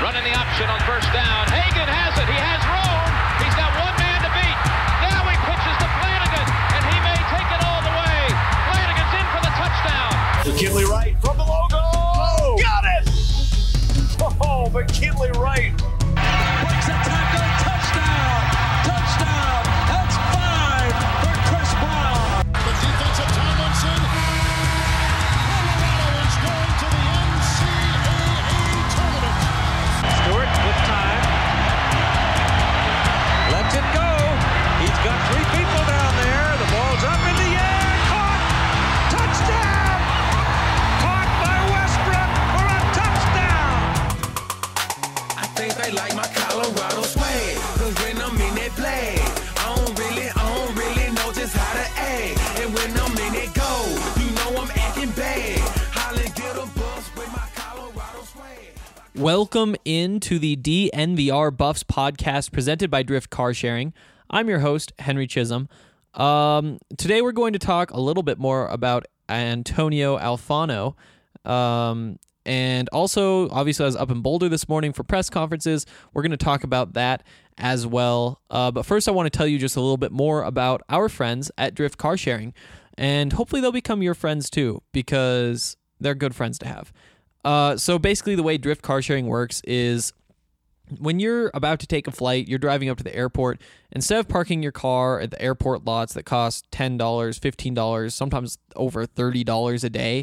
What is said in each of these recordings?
Running the option on first down. Hagan has it. He has room. He's got one man to beat. Now he pitches to Flanagan, and he may take it all the way. Flanagan's in for the touchdown. McKinley Wright from the logo. Oh, got it! Oh, McKinley Wright. Breaks a tackle. Touchdown. Touchdown. That's 5 for Chris Brown. The defensive Tomlinson. Colorado is going to the NCAA tournament. Stewart with time. Lets it go. He's got 3 people down there. The ball's up in the air. Caught. Touchdown. Caught by Westbrook for a touchdown. I think they like my Colorado swag. Cause when I'm in that play, I don't really know just how to act. And when I'm in it go, you know I'm acting bad. Holland get a bus with my Colorado swag. Welcome into the DNVR Buffs podcast presented by Drift Car Sharing. I'm your host, Henry Chisholm. Today we're going to talk a little bit more about Antonio Alfano. And also, obviously, I was up in Boulder this morning for press conferences. We're going to talk about that as well. But first, I want to tell you just a little bit more about our friends at Drift Car Sharing. And hopefully they'll become your friends too, because they're good friends to have. So basically, the way Drift Car Sharing works is when you're about to take a flight, you're driving up to the airport, instead of parking your car at the airport lots that cost $10, $15, sometimes over $30 a day,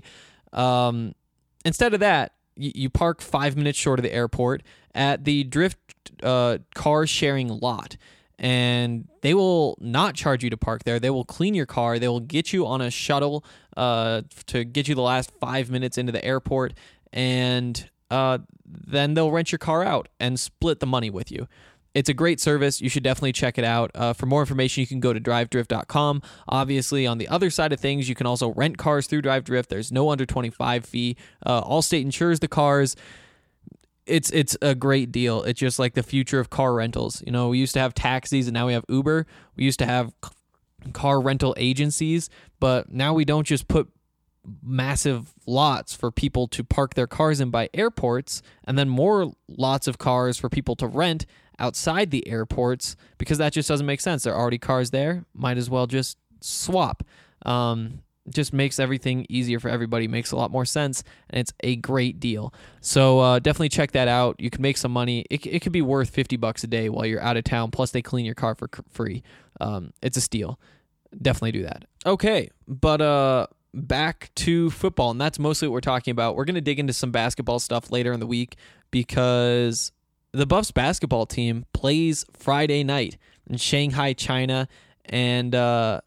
instead of that, you park 5 minutes short of the airport at the Drift car sharing lot. And they will not charge you to park there. They will clean your car. They will get you on a shuttle to get you the last 5 minutes into the airport. And then they'll rent your car out and split the money with you. It's a great service. You should definitely check it out. For more information, you can go to drivedrift.com. Obviously, on the other side of things, you can also rent cars through DriveDrift. There's no under 25 fee. Allstate insures the cars. It's a great deal. It's just like the future of car rentals. You know, we used to have taxis, and now we have Uber. We used to have car rental agencies, but now we don't just put massive lots for people to park their cars in by airports and then more lots of cars for people to rent outside the airports, because that just doesn't make sense. There are already cars there. Might as well just swap. Just makes everything easier for everybody, makes a lot more sense, and it's a great deal. So definitely check that out. You can make some money. It could be worth $50 a day while you're out of town, plus they clean your car for free. It's a steal. Definitely do that. Okay, but back to football, and that's mostly what we're talking about. We're going to dig into some basketball stuff later in the week because the Buffs basketball team plays Friday night in Shanghai, China, and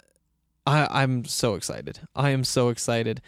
I'm so excited. I am so excited.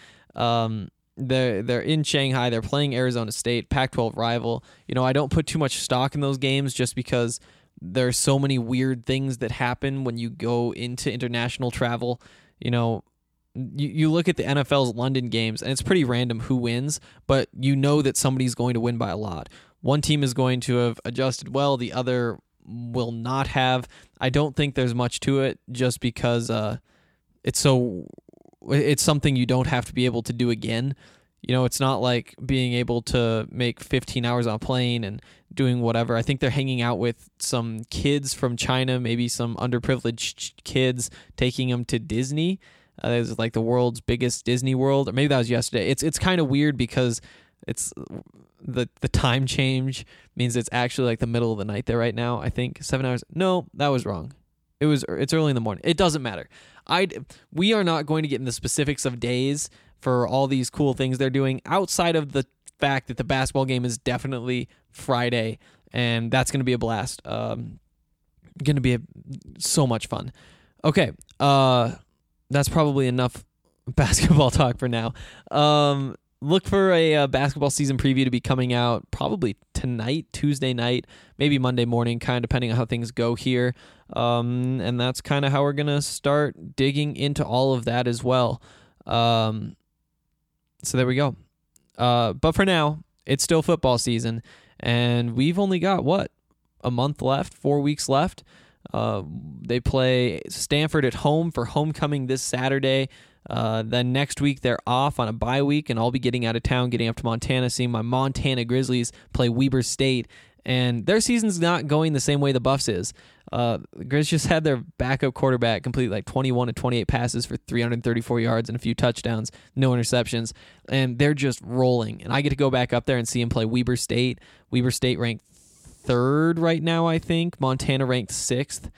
They're in Shanghai. They're playing Arizona State, Pac-12 rival. You know, I don't put too much stock in those games just because there's so many weird things that happen when you go into international travel. You know, you look at the NFL's London games, and it's pretty random who wins, but you know that somebody's going to win by a lot. One team is going to have adjusted well, the other will not have. I don't think there's much to it just because it's something you don't have to be able to do again. You know, it's not like being able to make 15 hours on a plane and doing whatever. I think they're hanging out with some kids from China, maybe some underprivileged kids, taking them to Disney. It's like the world's biggest Disney World, or maybe that was yesterday. It's kind of weird because it's the time change means it's actually like the middle of the night there right now. I think 7 hours. No, that was wrong. It's early in the morning. It doesn't matter. We are not going to get in the specifics of days for all these cool things they're doing outside of the fact that the basketball game is definitely Friday, and that's going to be a blast. Going to be so much fun. Okay, that's probably enough basketball talk for now. Look for a basketball season preview to be coming out probably tonight, Tuesday night, maybe Monday morning, kind of depending on how things go here. And that's kind of how we're going to start digging into all of that as well. So there we go. But for now, it's still football season, and we've only got, a month left, 4 weeks left. They play Stanford at home for homecoming this Saturday. Then next week they're off on a bye week, and I'll be getting out of town, getting up to Montana, seeing my Montana Grizzlies play Weber State. And their season's not going the same way the Buffs is. The Grizz just had their backup quarterback complete like 21 to 28 passes for 334 yards and a few touchdowns, no interceptions, and they're just rolling. And I get to go back up there and see him play Weber State. Weber State ranked 3rd right now, I think. Montana ranked 6th.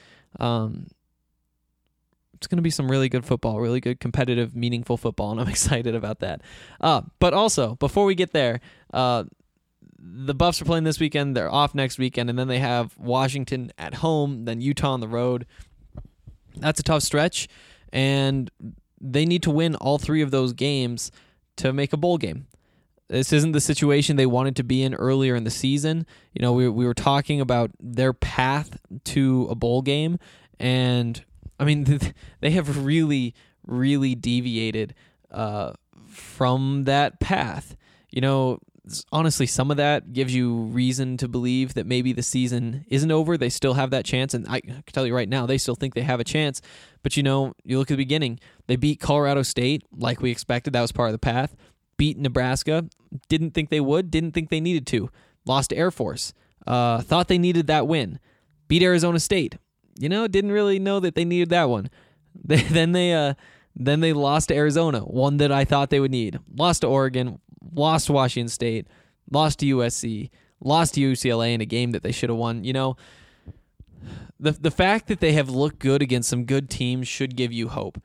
It's going to be some really good football, really good, competitive, meaningful football, and I'm excited about that. But also, before we get there, the Buffs are playing this weekend. They're off next weekend, and then they have Washington at home, then Utah on the road. That's a tough stretch, and they need to win all 3 of those games to make a bowl game. This isn't the situation they wanted to be in earlier in the season. You know, we were talking about their path to a bowl game, and I mean, they have really, really deviated from that path. You know, honestly, some of that gives you reason to believe that maybe the season isn't over. They still have that chance, and I can tell you right now, they still think they have a chance. But, you know, you look at the beginning. They beat Colorado State like we expected. That was part of the path. Beat Nebraska. Didn't think they would. Didn't think they needed to. Lost to Air Force. Thought they needed that win. Beat Arizona State. You know, didn't really know that they needed that one. Then they lost to Arizona, one that I thought they would need. Lost to Oregon, lost to Washington State, lost to USC, lost to UCLA in a game that they should have won. You know, the fact that they have looked good against some good teams should give you hope.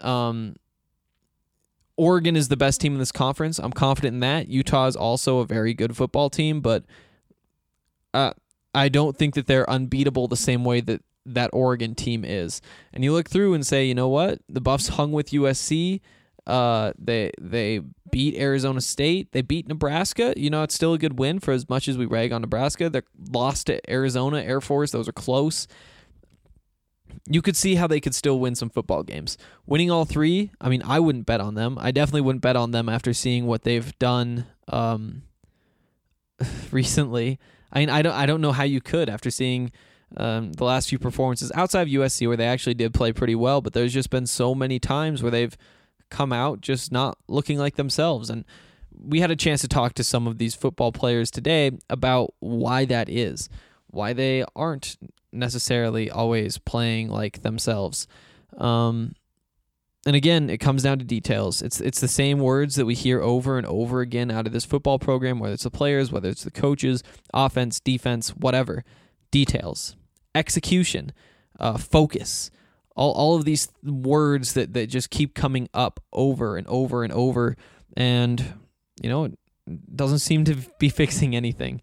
Oregon is the best team in this conference. I'm confident in that. Utah is also a very good football team, but I don't think that they're unbeatable the same way that Oregon team is. And you look through and say, you know what? The Buffs hung with USC. They beat Arizona State. They beat Nebraska. You know, it's still a good win for as much as we rag on Nebraska. They lost to Arizona, Air Force. Those are close. You could see how they could still win some football games. Winning all 3, I mean, I wouldn't bet on them. I definitely wouldn't bet on them after seeing what they've done recently. I mean, I don't know how you could after seeing the last few performances outside of USC where they actually did play pretty well, but there's just been so many times where they've come out just not looking like themselves. And we had a chance to talk to some of these football players today about why that is, why they aren't necessarily always playing like themselves. And again, it comes down to details. It's the same words that we hear over and over again out of this football program, whether it's the players, whether it's the coaches, offense, defense, whatever. Details, execution, focus, all of these words that just keep coming up over and over and over, and you know, it doesn't seem to be fixing anything.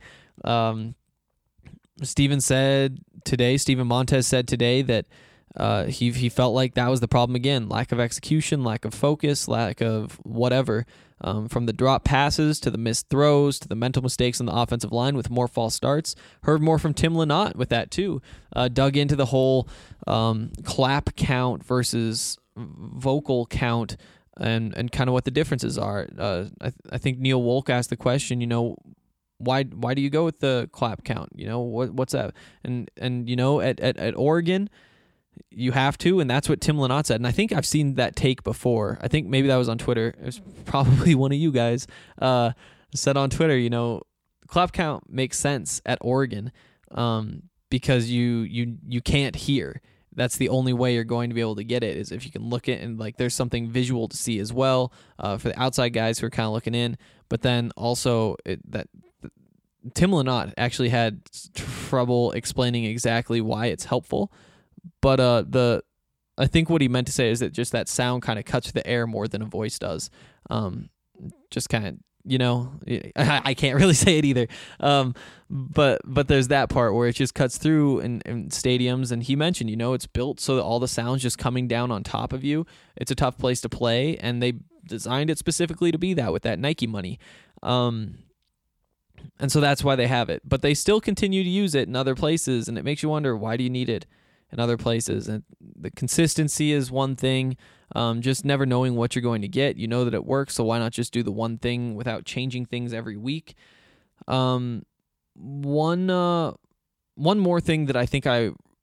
Stephen Montez said today that he felt like that was the problem again: lack of execution, lack of focus, lack of whatever. From the drop passes to the missed throws to the mental mistakes on the offensive line with more false starts. Heard more from Tim Lynott with that too. Dug into the whole clap count versus vocal count and kind of what the differences are. I think Neil Wolk asked the question, you know, why do you go with the clap count? You know, what's that? And you know, at Oregon, you have to, and that's what Tim Lynott said. And I think I've seen that take before. I think maybe that was on Twitter. It was probably one of you guys said on Twitter, you know, clap count makes sense at Oregon because you can't hear. That's the only way you're going to be able to get it, is if you can look at and like there's something visual to see as well for the outside guys who are kind of looking in. But then also Tim Lynott actually had trouble explaining exactly why it's helpful. But I think what he meant to say is that just that sound kind of cuts through the air more than a voice does. Just kind of, you know, I can't really say it either. But there's that part where it just cuts through in stadiums. And he mentioned, you know, it's built so that all the sound's just coming down on top of you. It's a tough place to play, and they designed it specifically to be that with that Nike money. And so that's why they have it. But they still continue to use it in other places, and it makes you wonder, why do you need it in other places? And the consistency is one thing, just never knowing what you're going to get. You know that it works, so why not just do the one thing without changing things every week? One more thing that I think I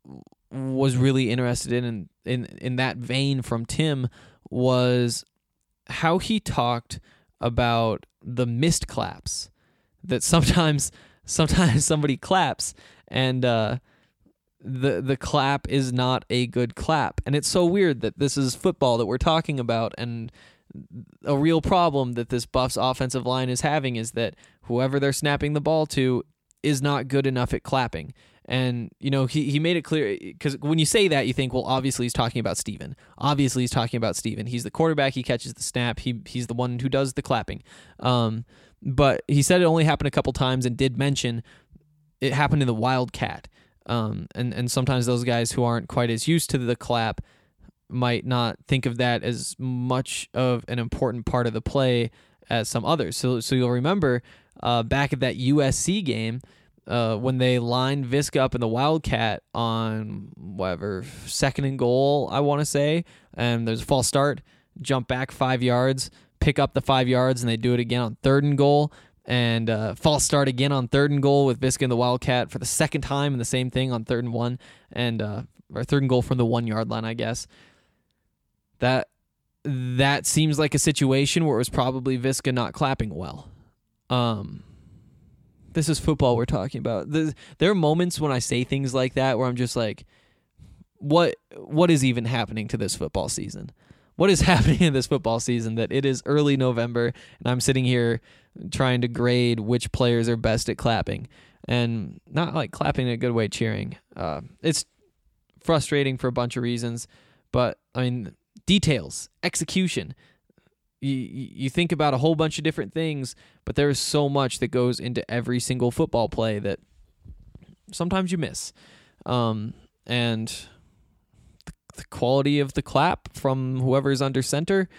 was really interested in that vein from Tim was how he talked about the missed claps, that sometimes somebody claps and the clap is not a good clap. And it's so weird that this is football that we're talking about, and a real problem that this Buffs offensive line is having is that whoever they're snapping the ball to is not good enough at clapping. And, he made it clear, because when you say that, you think, well, obviously he's talking about Steven. Obviously he's talking about Steven. He's the quarterback. He catches the snap. He's the one who does the clapping. But he said it only happened a couple times and did mention it happened in the Wildcat. And sometimes those guys who aren't quite as used to the clap might not think of that as much of an important part of the play as some others. So you'll remember back at that USC game, when they lined Viska up in the Wildcat on whatever, 2nd and goal, I want to say, and there's a false start, jump back 5 yards, pick up the 5 yards, and they do it again on 3rd and goal, and false start again on 3rd and goal with Viska in the Wildcat for the second time, and the same thing on 3rd and 1, and or 3rd and goal from the 1 yard line, I guess. That seems like a situation where it was probably Viska not clapping well. This is football we're talking about. There are moments when I say things like that where I'm just like, what is even happening to this football season? What is happening in this football season that it is early November and I'm sitting here trying to grade which players are best at clapping, and not like clapping in a good way, cheering. It's frustrating for a bunch of reasons, but I mean, details, execution. You think about a whole bunch of different things, but there is so much that goes into every single football play that sometimes you miss. And the quality of the clap from whoever's under center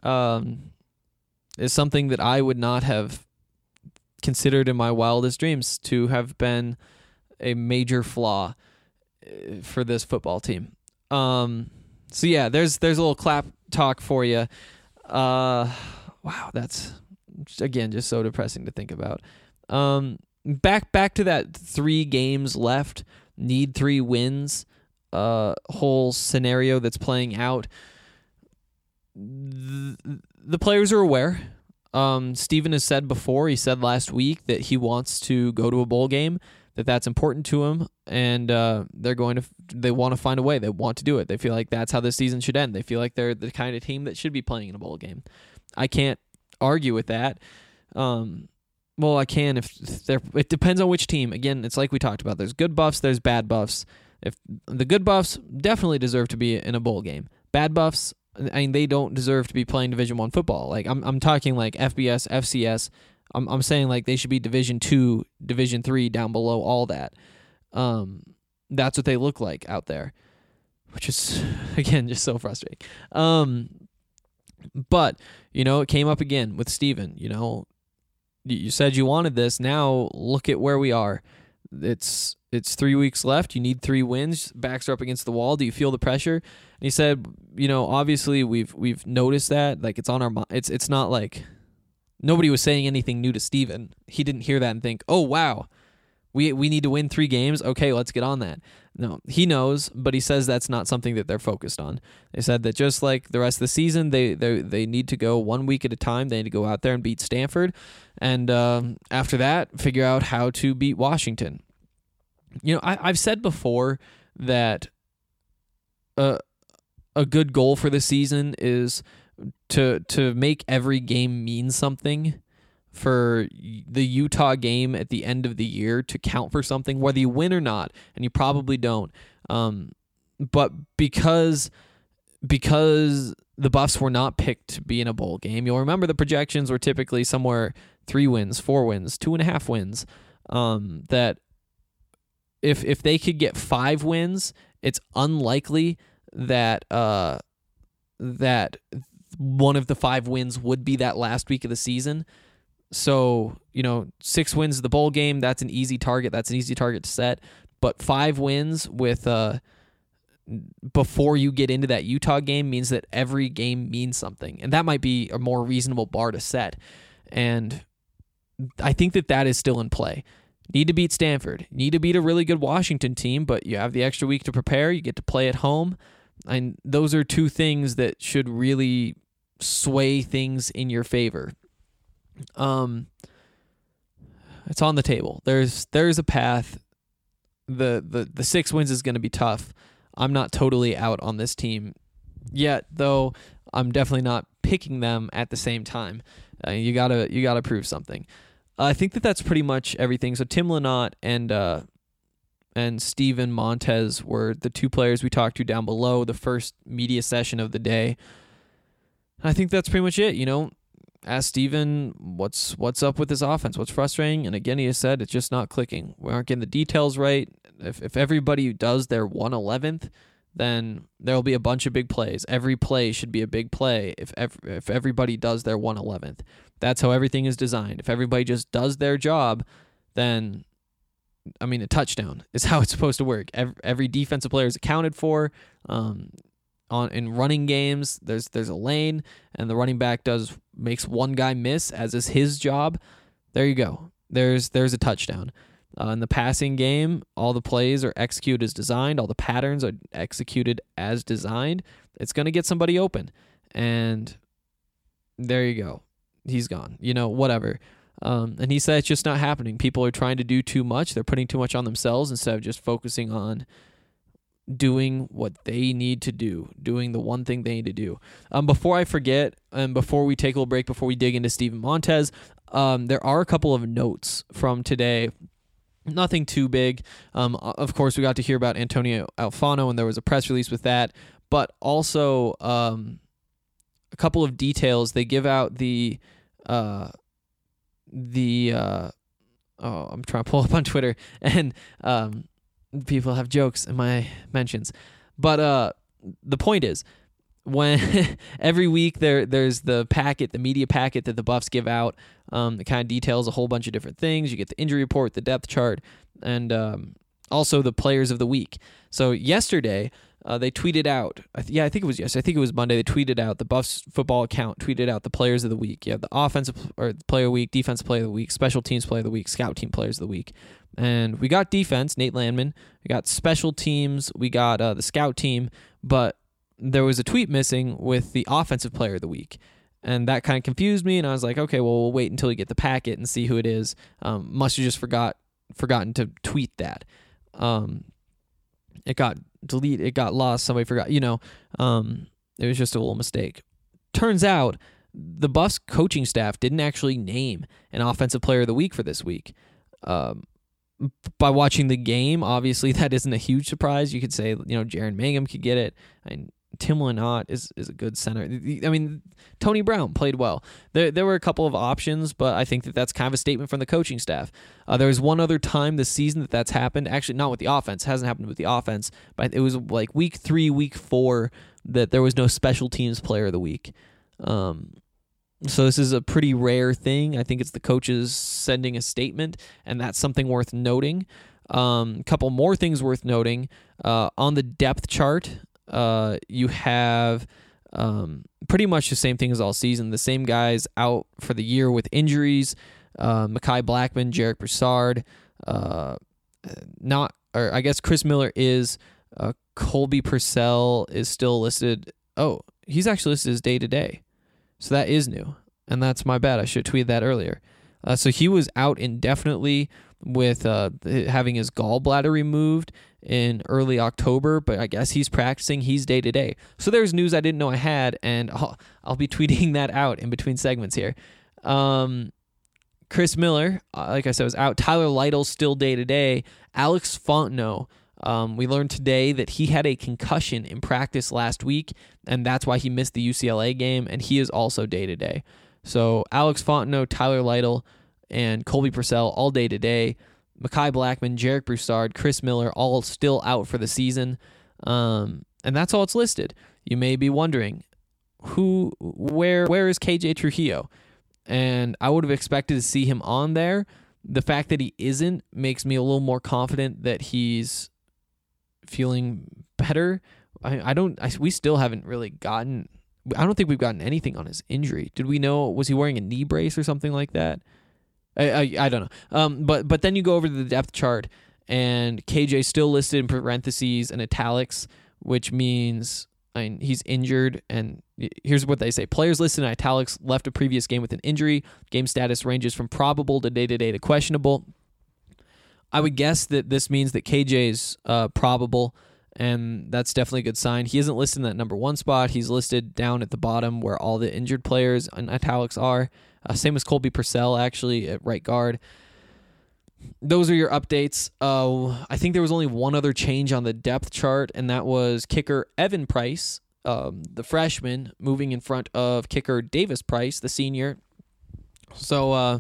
is something that I would not have considered in my wildest dreams to have been a major flaw for this football team. So yeah, there's a little clap talk for you. Wow, that's again just so depressing to think about. Back to that 3 games left, need 3 wins, whole scenario that's playing out. The players are aware. Steven has said before, he said last week that he wants to go to a bowl game, that's important to him, and they want to find a way. They want to do it. They feel like that's how this season should end. They feel like they're the kind of team that should be playing in a bowl game. I can't argue with that. Well, I can if it depends on which team. Again, it's like we talked about. There's good Buffs, there's bad Buffs. If the good Buffs definitely deserve to be in a bowl game. Bad Buffs, I mean, they don't deserve to be playing Division I football. Like I'm talking like FBS, FCS. I'm saying like they should be Division II, Division III, down below all that. That's what they look like out there, which is again just so frustrating. But it came up again with Steven. You said you wanted this. Now look at where we are. It's 3 weeks left. You need 3 wins. Backs are up against the wall. Do you feel the pressure? And he said, obviously we've noticed that. Like it's on our mind. It's not like nobody was saying anything new to Steven. He didn't hear that and think, oh wow, we need to win 3 games. Okay, let's get on that. No, he knows, but he says that's not something that they're focused on. They said that just like the rest of the season, they need to go 1 week at a time. They need to go out there and beat Stanford, and after that, figure out how to beat Washington. I've said before that a good goal for the season is to make every game mean something, for the Utah game at the end of the year to count for something, whether you win or not, and you probably don't. But because the Buffs were not picked to be in a bowl game, you'll remember the projections were typically somewhere 3 wins, 4 wins, 2.5 wins. That if they could get 5 wins, it's unlikely that that one of the 5 wins would be that last week of the season. So, 6 wins the bowl game, that's an easy target. That's an easy target to set. But 5 wins with before you get into that Utah game means that every game means something. And that might be a more reasonable bar to set. And I think that is still in play. Need to beat Stanford. Need to beat a really good Washington team, but you have the extra week to prepare. You get to play at home. And those are two things that should really sway things in your favor. It's on the table. There's a path. The 6 wins is going to be tough. I'm not totally out on this team yet, though. I'm definitely not picking them at the same time. You gotta prove something. I think that's pretty much everything. So Tim Lynott and Steven Montez were the two players we talked to down below the first media session of the day. I think that's pretty much it. Ask Steven what's up with this offense, what's frustrating, and again he has said it's just not clicking. We aren't getting the details right. If everybody does their 1/11th, then there'll be a bunch of big plays. Every play should be a big play if everybody does their 1/11th. That's how everything is designed. If everybody just does their job, then, a touchdown is how it's supposed to work. Every defensive player is accounted for. In running games, there's a lane, and the running back makes one guy miss, as is his job. There you go. There's a touchdown. In the passing game, all the plays are executed as designed. All the patterns are executed as designed. It's going to get somebody open. And there you go. He's gone. Whatever. And he said it's just not happening. People are trying to do too much. They're putting too much on themselves instead of just focusing on doing what they need to do, doing the one thing they need to do. Before I forget, and before we take a little break, before we dig into Steven Montez, there are a couple of notes from today. Nothing too big. Of course, we got to hear about Antonio Alfano, and there was a press release with that. But also a couple of details. They give out I'm trying to pull up on Twitter, and people have jokes in my mentions. But the point is, when every week there's the media packet that the Buffs give out. It kind of details a whole bunch of different things. You get the injury report, the depth chart, and also the players of the week. So yesterday, they tweeted out, I think it was yesterday. I think it was Monday. They tweeted out, the Buffs football account tweeted out the players of the week. You have the offensive or player of the week, defensive player of the week, special teams player of the week, scout team players of the week. And we got defense, Nate Landman. We got special teams. We got the scout team. But there was a tweet missing with the offensive player of the week. And that kind of confused me, and I was like, okay, well, we'll wait until we get the packet and see who it is. Must have just forgotten to tweet that. It got deleted, it got lost, somebody forgot. It was just a little mistake. Turns out the Buffs coaching staff didn't actually name an offensive player of the week for this week. By watching the game, obviously that isn't a huge surprise. You could say, Jaren Mangum could get it. Tim Lynott is a good center. Tony Brown played well. There were a couple of options, but I think that's kind of a statement from the coaching staff. There was one other time this season that's happened. Actually, not with the offense. It hasn't happened with the offense, but it was like week 3, week 4 that there was no special teams player of the week. So this is a pretty rare thing. I think it's the coaches sending a statement, and that's something worth noting. A couple more things worth noting. On the depth chart, you have pretty much the same thing as all season. The same guys out for the year with injuries. Mekhi Blackmon, Jarek Broussard. I guess Chris Miller is. Colby Purcell is still listed. Oh, he's actually listed as day-to-day. So that is new. And that's my bad. I should have tweeted that earlier. So he was out indefinitely with having his gallbladder removed in early October, but I guess he's practicing. He's day-to-day. So there's news I didn't know I had, and I'll be tweeting that out in between segments here. Chris Miller, like I said, was out. Tyler Lytle's still day-to-day. Alex Fontenot, we learned today that he had a concussion in practice last week, and that's why he missed the UCLA game, and he is also day-to-day. So Alex Fontenot, Tyler Lytle, and Colby Purcell all day-to-day. Mekhi Blackmon, Jarek Broussard, Chris Miller, all still out for the season. And that's all it's listed. You may be wondering, where is KJ Trujillo? And I would have expected to see him on there. The fact that he isn't makes me a little more confident that he's feeling better. We still haven't really gotten, I don't think we've gotten anything on his injury. Did we know, was he wearing a knee brace or something like that? I don't know. But then you go over to the depth chart, and KJ still listed in parentheses and italics, which means he's injured. And here's what they say: players listed in italics left a previous game with an injury. Game status ranges from probable to day-to-day to questionable. I would guess that this means that KJ's probable, and that's definitely a good sign. He isn't listed in that number 1 spot. He's listed down at the bottom where all the injured players in italics are. Same as Colby Purcell, actually, at right guard. Those are your updates. I think there was only one other change on the depth chart, and that was kicker Evan Price, the freshman, moving in front of kicker Davis Price, the senior. So,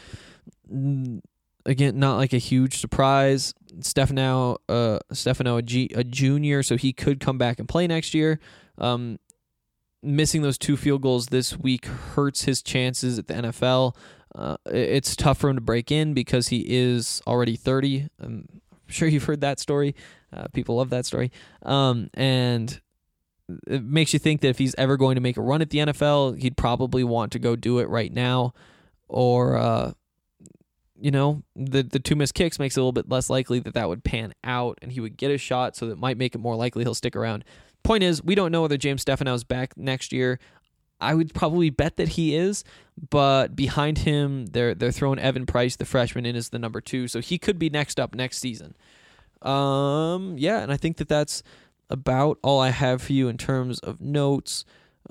again, not like a huge surprise. Stefano, a junior, so he could come back and play next year. Missing those 2 field goals this week hurts his chances at the NFL. It's tough for him to break in because he is already 30. I'm sure you've heard that story. People love that story. And it makes you think that if he's ever going to make a run at the NFL, he'd probably want to go do it right now. Or, the 2 missed kicks makes it a little bit less likely that would pan out and he would get a shot, so that might make it more likely he'll stick around. Point is, we don't know whether James Stefano is back next year. I would probably bet that he is, but behind him, they're throwing Evan Price, the freshman, in as the number 2, so he could be next up next season. And I think that's about all I have for you in terms of notes.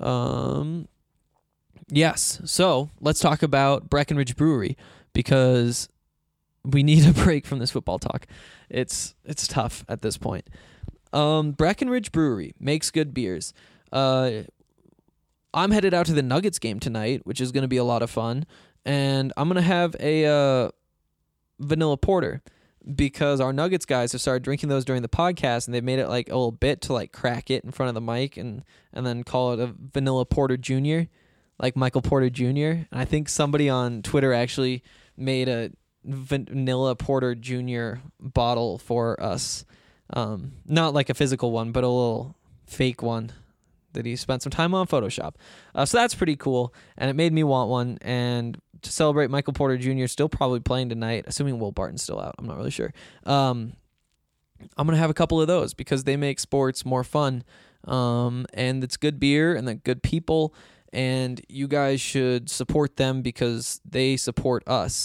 Yes, so let's talk about Breckenridge Brewery, because we need a break from this football talk. It's tough at this point. Breckenridge Brewery makes good beers. I'm headed out to the Nuggets game tonight, which is going to be a lot of fun, and I'm going to have a vanilla porter, because our Nuggets guys have started drinking those during the podcast, and they've made it like a little bit to like crack it in front of the mic and then call it a vanilla porter junior, like Michael Porter Jr. And I think somebody on Twitter actually made a vanilla porter junior bottle for us. Not like a physical one, but a little fake one that he spent some time on Photoshop. So that's pretty cool, and it made me want one. And to celebrate Michael Porter Jr. still probably playing tonight, assuming Will Barton's still out. I'm not really sure. I'm going to have a couple of those because they make sports more fun. And it's good beer and they're good people, and you guys should support them because they support us.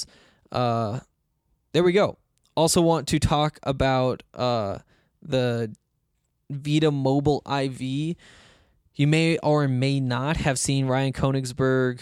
There we go. Also want to talk about the Vita Mobile IV. You may or may not have seen Ryan Koenigsberg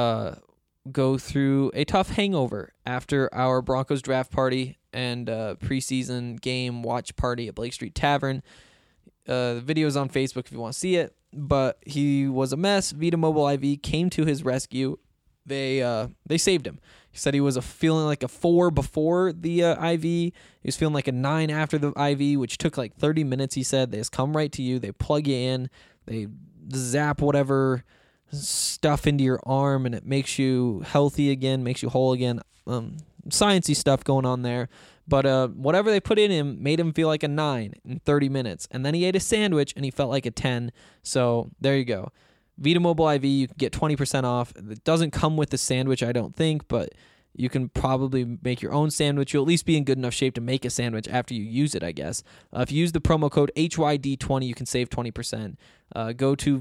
go through a tough hangover after our Broncos draft party and preseason game watch party at Blake Street Tavern. The video is on Facebook if you want to see it, but he was a mess. Vita Mobile IV came to his rescue. They saved him. He said he was feeling like a 4 before the IV. He was feeling like a 9 after the IV, which took like 30 minutes, he said. They just come right to you. They plug you in. They zap whatever stuff into your arm, and it makes you healthy again, makes you whole again. Sciencey stuff going on there. But whatever they put in him made him feel like a 9 in 30 minutes. And then he ate a sandwich, and he felt like a 10. So there you go. Vita Mobile IV, you can get 20% off. It doesn't come with the sandwich, I don't think, but you can probably make your own sandwich. You'll at least be in good enough shape to make a sandwich after you use it, I guess. If you use the promo code HYD20, you can save 20%. Go to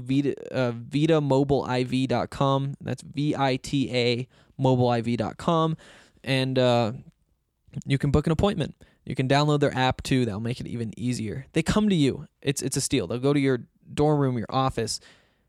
VitaMobileIV.com. That's VITA mobileiv.com. And you can book an appointment. You can download their app, too. That'll make it even easier. They come to you. It's a steal. They'll go to your dorm room, your office,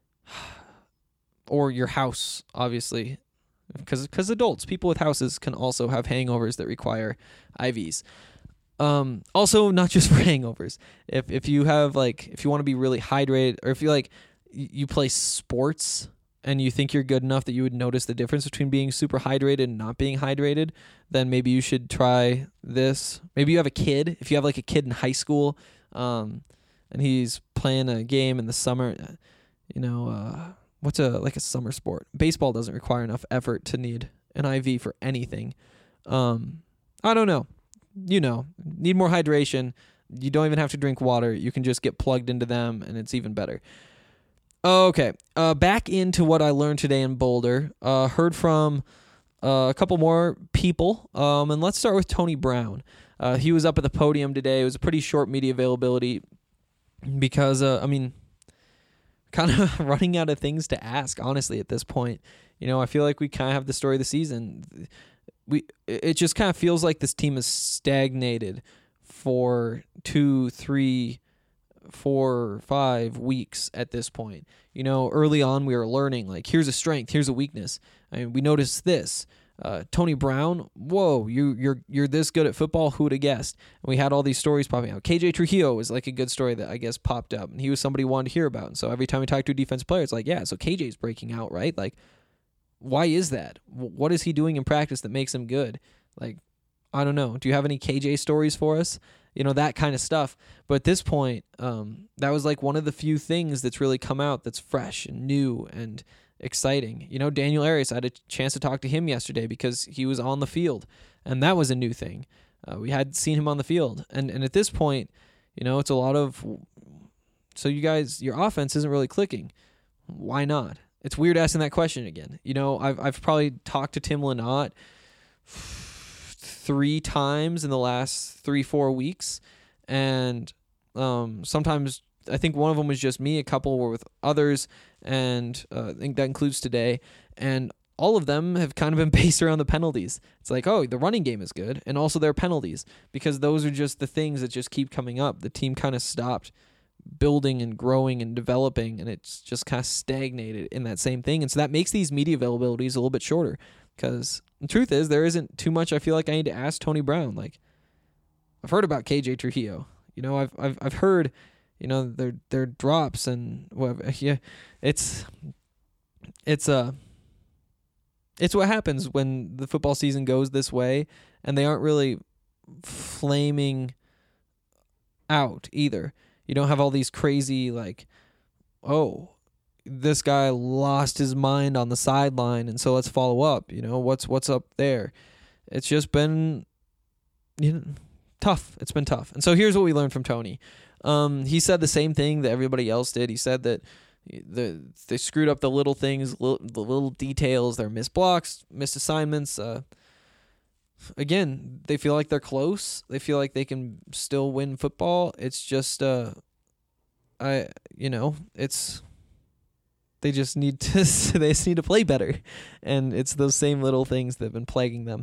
or your house, obviously, because adults, people with houses, can also have hangovers that require IVs. Also, not just for hangovers. If you have if you want to be really hydrated, or if you play sports and you think you're good enough that you would notice the difference between being super hydrated and not being hydrated, then maybe you should try this. Maybe you have a kid. If you have a kid in high school, and he's playing a game in the summer, what's a summer sport? Baseball doesn't require enough effort to need an IV for anything. I don't know. Need more hydration. You don't even have to drink water. You can just get plugged into them, and it's even better. Okay, back into what I learned today in Boulder. Heard from a couple more people, and let's start with Tony Brown. He was up at the podium today. It was a pretty short media availability because, kind of running out of things to ask, honestly, at this point. I feel like we kind of have the story of the season. It just kind of feels like this team is stagnated for 2, 3, 4, 5 weeks at this point. Early on we were learning, like, here's a strength, here's a weakness. We noticed this. Tony Brown, whoa, you're this good at football, who would have guessed? And we had all these stories popping out. KJ Trujillo was like a good story that I guess popped up, and he was somebody we wanted to hear about. And so every time we talk to a defensive player, it's like, yeah, so KJ's breaking out, right? Like, why is that? What is he doing in practice that makes him good? Like, I don't know. Do you have any KJ stories for us? That kind of stuff. But at this point, that was like one of the few things that's really come out that's fresh and new and exciting. Daniel Arias, I had a chance to talk to him yesterday because he was on the field, and that was a new thing. We had seen him on the field. And at this point, it's a lot of, so you guys, your offense isn't really clicking. Why not? It's weird asking that question again. I've probably talked to Tim Lynott 3 times in the last 3-4 weeks, and sometimes I think one of them was just me, a couple were with others, and I think that includes today, and all of them have kind of been based around the penalties. It's like, oh, the running game is good, and also their penalties, because those are just the things that just keep coming up. The team kind of stopped building and growing and developing, and it's just kind of stagnated in that same thing. And so that makes these media availabilities a little bit shorter, because the truth is there isn't too much I feel like I need to ask Tony Brown. Like, I've heard about KJ Trujillo. I've heard, their drops and whatever. Yeah, it's what happens when the football season goes this way, and they aren't really flaming out either. You don't have all these crazy, like, oh, this guy lost his mind on the sideline, and so let's follow up. What's up there? It's just been tough. It's been tough. And so here's what we learned from Tony. He said the same thing that everybody else did. He said that they screwed up the little things, the little details, their missed blocks, missed assignments. Again, they feel like they're close. They feel like they can still win football. It's just, they just need to play better, and it's those same little things that have been plaguing them.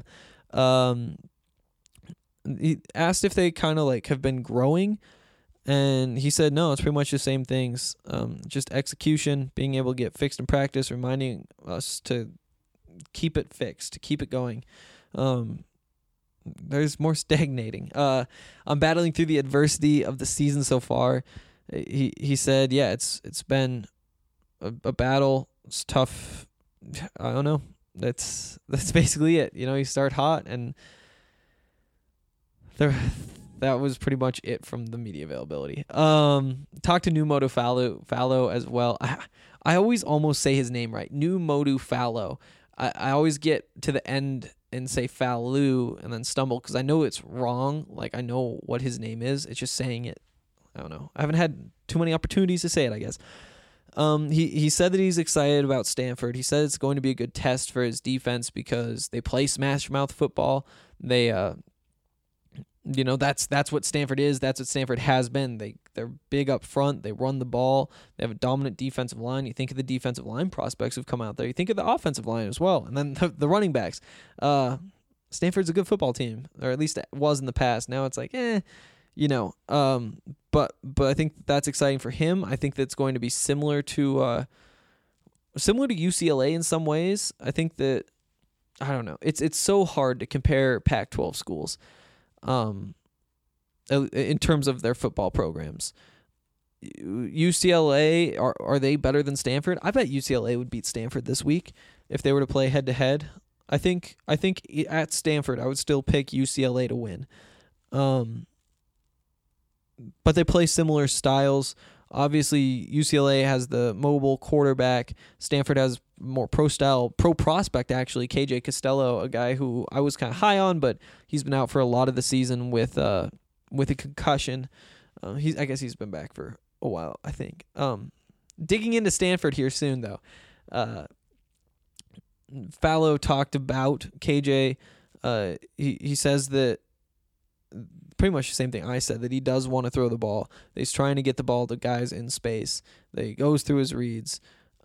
He asked if they kind of like have been growing, and he said no, it's pretty much the same things. Just execution, being able to get fixed in practice, reminding us to keep it fixed, to keep it going. There's more stagnating. I'm battling through the adversity of the season so far. He said, yeah, it's been a battle. It's tough. I don't know. That's basically it. You start hot, and that was pretty much it from the media availability. Talked to Numodu Fallo as well. I always almost say his name right. Numodu Fallo. I always get to the end and say Fallu and then stumble because I know it's wrong. Like, I know what his name is. It's just saying it. I don't know. I haven't had too many opportunities to say it, I guess. He said that he's excited about Stanford. He said it's going to be a good test for his defense because they play smash mouth football. They that's what Stanford is. That's what Stanford has been. They're big up front. They run the ball. They have a dominant defensive line. You think of the defensive line prospects who've come out there. You think of the offensive line as well, and then the running backs. Stanford's a good football team, or at least it was in the past. Now it's like, But I think that's exciting for him. I think that's going to be similar to UCLA in some ways. I think that, I don't know. It's so hard to compare Pac-12 schools. In terms of their football programs. UCLA, are they better than Stanford? I bet UCLA would beat Stanford this week if they were to play head to head. I think at Stanford I would still pick UCLA to win. But they play similar styles. Obviously UCLA has the mobile quarterback. Stanford has more pro prospect actually. KJ Costello, a guy who I was kind of high on, but he's been out for a lot of the season with a concussion. I guess he's been back for a while, I think. Digging into Stanford here soon though. Fallow talked about KJ. He says that pretty much the same thing I said, that he does want to throw the ball. That he's trying to get the ball to guys in space. That he goes through his reads.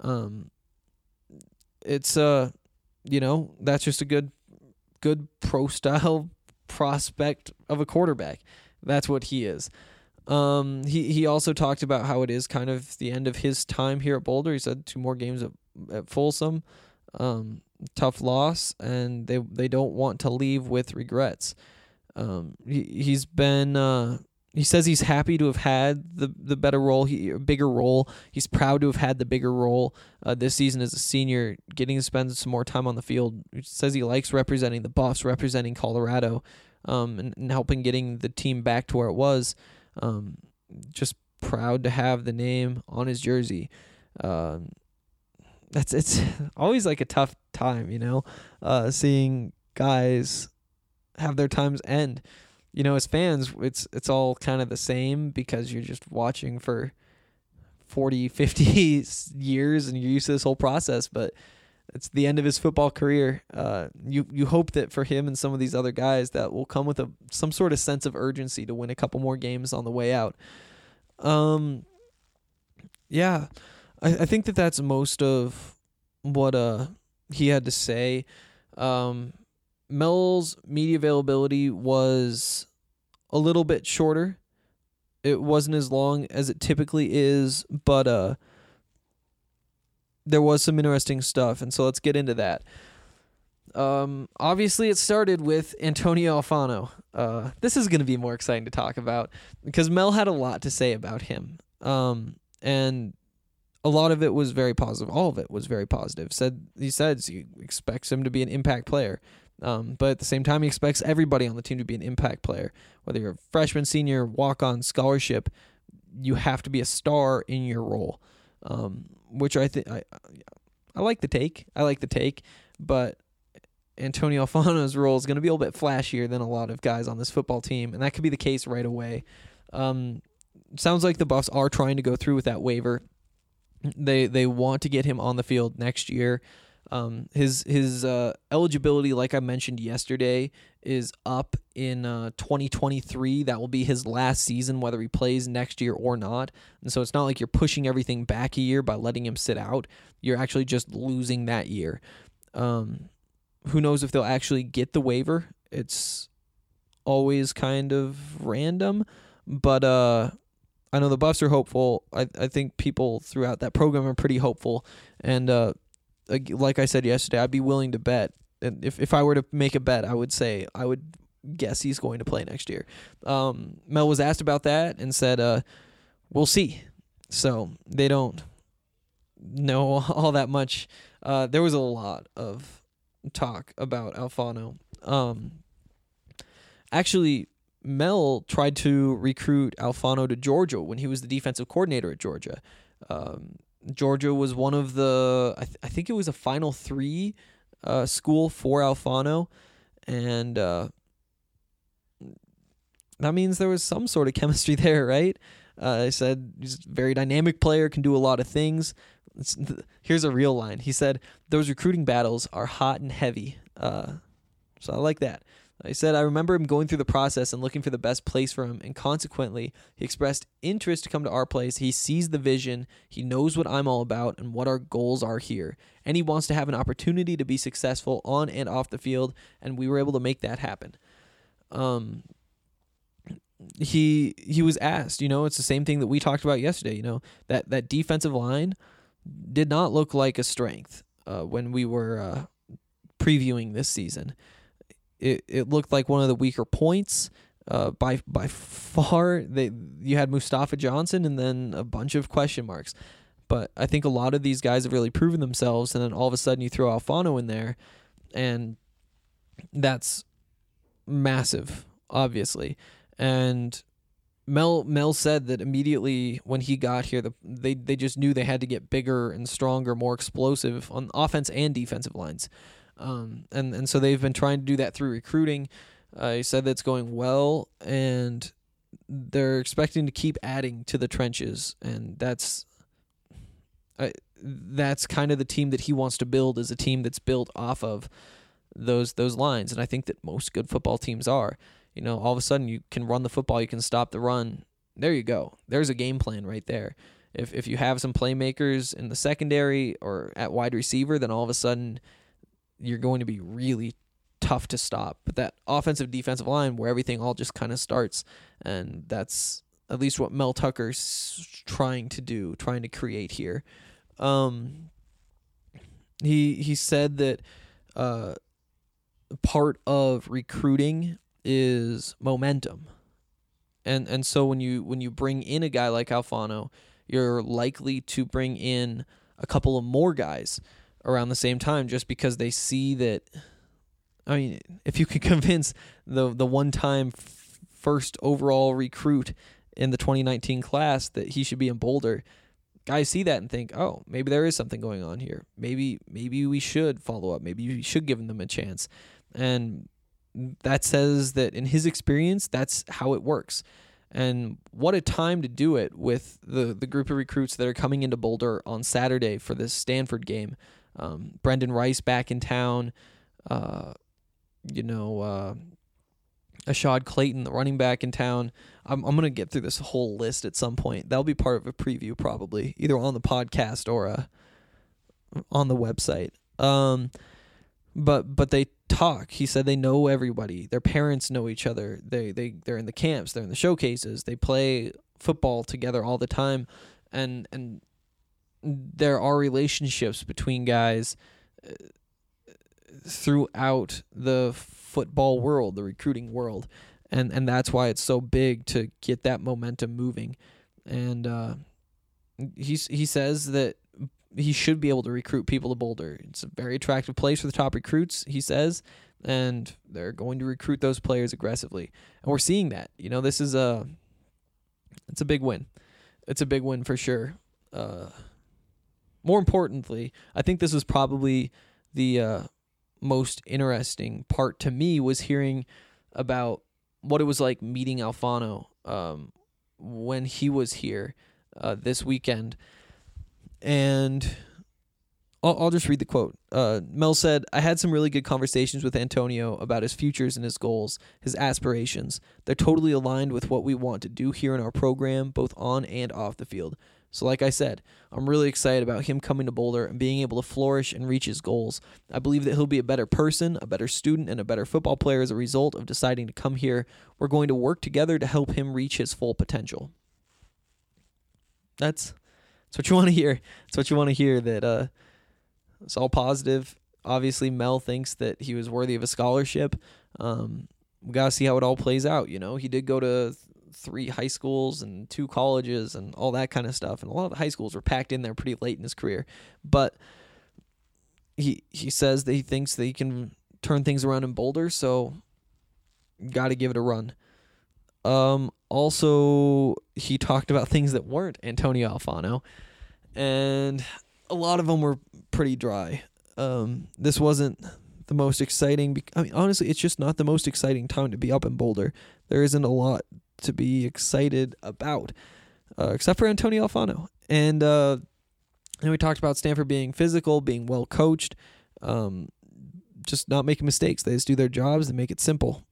It's that's just a good pro style prospect of a quarterback. That's what he is. He also talked about how it is kind of the end of his time here at Boulder. He said 2 more games at Folsom. Tough loss, and they don't want to leave with regrets. He's been he says he's happy to have had the better role, bigger role. He's proud to have had the bigger role this season as a senior, getting to spend some more time on the field. He says he likes representing the Buffs, representing Colorado, and helping getting the team back to where it was. Just proud to have the name on his jersey. It's always like a tough time, seeing guys have their times end. As fans, it's all kind of the same because you're just watching for 40, 50 years and you're used to this whole process, but it's the end of his football career. You hope that for him and some of these other guys that will come with some sort of sense of urgency to win a couple more games on the way out. Yeah, I think that's most of what he had to say. Mel's media availability was a little bit shorter. It wasn't as long as it typically is, but there was some interesting stuff, and so let's get into that. Obviously, it started with Antonio Alfano. This is going to be more exciting to talk about because Mel had a lot to say about him, and a lot of it was very positive. All of it was very positive. He said he expects him to be an impact player. But at the same time, he expects everybody on the team to be an impact player. Whether you're a freshman, senior, walk-on, scholarship, you have to be a star in your role. Which I think I like the take. But Antonio Alfano's role is going to be a little bit flashier than a lot of guys on this football team, and that could be the case right away. Sounds like the Buffs are trying to go through with that waiver. They want to get him on the field next year. His eligibility, like I mentioned yesterday, is up in 2023. That will be his last season, whether he plays next year or not. And so it's not like you're pushing everything back a year by letting him sit out. You're actually just losing that year. Who knows if they'll actually get the waiver? It's always kind of random, but I know the Buffs are hopeful. I think people throughout that program are pretty hopeful, and like I said yesterday, I'd be willing to bet. And if I were to make a bet, I would guess he's going to play next year. Mel was asked about that and said, we'll see. So they don't know all that much. There was a lot of talk about Alfano. Actually, Mel tried to recruit Alfano to Georgia when he was the defensive coordinator at Georgia. Georgia was one of the, I think it was a Final 3 school for Alfano, and that means there was some sort of chemistry there, right? I said he's a very dynamic player, can do a lot of things. Here's a real line. He said, those recruiting battles are hot and heavy. So I like that. He said, I remember him going through the process and looking for the best place for him, and consequently, he expressed interest to come to our place. He sees the vision, he knows what I'm all about and what our goals are here, and he wants to have an opportunity to be successful on and off the field, and we were able to make that happen. He was asked, it's the same thing that we talked about yesterday, that defensive line did not look like a strength when we were previewing this season. It looked like one of the weaker points by far. You had Mustafa Johnson and then a bunch of question marks. But I think a lot of these guys have really proven themselves, and then all of a sudden you throw Alfano in there, and that's massive, obviously. And Mel said that immediately when he got here, they just knew they had to get bigger and stronger, more explosive on offense and defensive lines. And so they've been trying to do that through recruiting. He said that's going well, and they're expecting to keep adding to the trenches, and that's that's kind of the team that he wants to build, is a team that's built off of those lines. And I think that most good football teams are. You know, all of a sudden you can run the football, you can stop the run. There you go. There's a game plan right there. If you have some playmakers in the secondary or at wide receiver, then all of a sudden you're going to be really tough to stop. But that offensive defensive line where everything all just kind of starts, and that's at least what Mel Tucker's trying to create here. He said that part of recruiting is momentum. And so when you bring in a guy like Alfano, you're likely to bring in a couple of more guys around the same time, just because they see that. I mean, if you could convince the one-time first overall recruit in the 2019 class that he should be in Boulder, guys see that and think, oh, maybe there is something going on here. Maybe we should follow up. Maybe we should give them a chance. And that says that in his experience, that's how it works. And what a time to do it with the group of recruits that are coming into Boulder on Saturday for this Stanford game. Brendan Rice back in town, Ashad Clayton, the running back in town. I'm going to get through this whole list at some point. That'll be part of a preview probably, either on the podcast or on the website. But they talk. He said they know everybody. Their parents know each other. They're in the camps. They're in the showcases. They play football together all the time, and there are relationships between guys throughout the football world, the recruiting world, and that's why it's so big to get that momentum moving. And he says that he should be able to recruit people to Boulder. It's a very attractive place for the top recruits, he says, and they're going to recruit those players aggressively. And we're seeing that. You know, it's a big win. It's a big win for sure. More importantly, I think this was probably the most interesting part to me, was hearing about what it was like meeting Alfano when he was here this weekend. And I'll just read the quote. Mel said, "I had some really good conversations with Antonio about his futures and his goals, his aspirations. They're totally aligned with what we want to do here in our program, both on and off the field. So like I said, I'm really excited about him coming to Boulder and being able to flourish and reach his goals. I believe that he'll be a better person, a better student, and a better football player as a result of deciding to come here. We're going to work together to help him reach his full potential." That's what you want to hear. It's what you want to hear, that it's all positive. Obviously, Mel thinks that he was worthy of a scholarship. We got to see how it all plays out. You know, he did go to 3 high schools and 2 colleges and all that kind of stuff. And a lot of the high schools were packed in there pretty late in his career. But he says that he thinks that he can turn things around in Boulder, so got to give it a run. Also, he talked about things that weren't Antonio Alfano, and a lot of them were pretty dry. This wasn't the most exciting. I mean, honestly, it's just not the most exciting time to be up in Boulder. There isn't a lot to be excited about, except for Antonio Alfano. And we talked about Stanford being physical, being well coached, just not making mistakes. They just do their jobs and make it simple.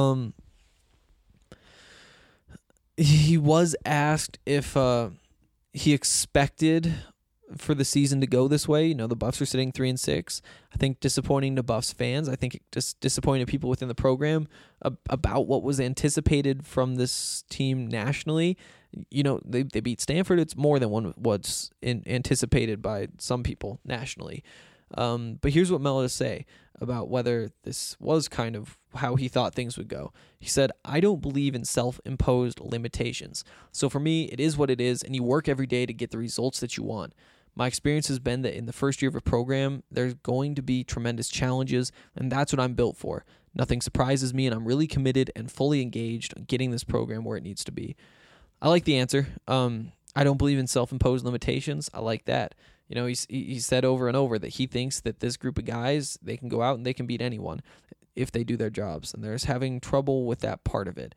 He was asked if he expected for the season to go this way. You know, the Buffs are sitting 3-6. I think disappointing to Buffs fans. I think it just disappointed people within the program about what was anticipated from this team nationally. You know, they beat Stanford. It's more than what's anticipated by some people nationally. But here's what Mel had to say about whether this was kind of how he thought things would go. He said, "I don't believe in self-imposed limitations. So for me, it is what it is, and you work every day to get the results that you want. My experience has been that in the first year of a program, there's going to be tremendous challenges, and that's what I'm built for. Nothing surprises me, and I'm really committed and fully engaged on getting this program where it needs to be." I like the answer. I don't believe in self-imposed limitations. I like that. You know, he said over and over that he thinks that this group of guys, they can go out and they can beat anyone if they do their jobs, and they're just having trouble with that part of it.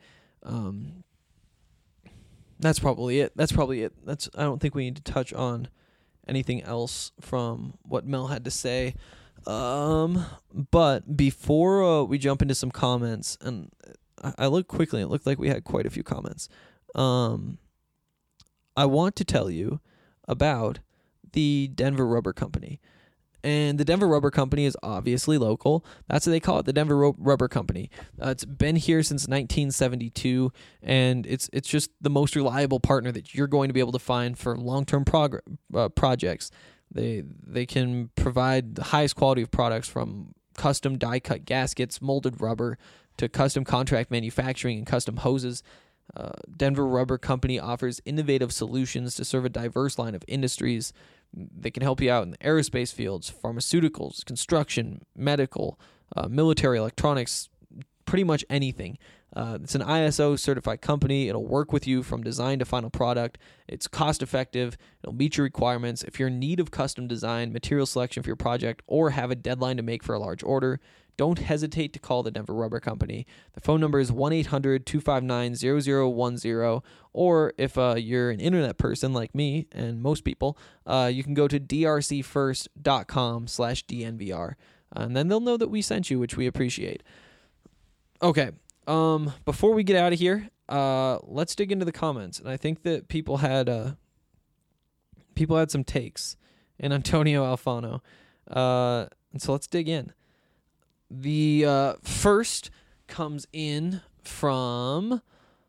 That's probably it. I don't think we need to touch on anything else from what Mel had to say. But before we jump into some comments, and I looked quickly, and it looked like we had quite a few comments. I want to tell you about the Denver Rubber Company. And the Denver Rubber Company is obviously local. That's what they call it, the Denver Rubber Company. It's been here since 1972, and it's just the most reliable partner that you're going to be able to find for long-term projects. They can provide the highest quality of products, from custom die-cut gaskets, molded rubber, to custom contract manufacturing and custom hoses. Denver Rubber Company offers innovative solutions to serve a diverse line of industries. They can help you out in the aerospace fields, pharmaceuticals, construction, medical, military electronics, pretty much anything. It's an ISO certified company. It'll work with you from design to final product. It's cost effective. It'll meet your requirements. If you're in need of custom design, material selection for your project, or have a deadline to make for a large order, don't hesitate to call the Denver Rubber Company. The phone number is 1-800-259-0010, or if you're an internet person like me and most people, you can go to drcfirst.com/DNVR, and then they'll know that we sent you, which we appreciate. Okay, before we get out of here, let's dig into the comments, and I think that people had some takes in Antonio Alfano, and so let's dig in. The first comes in from...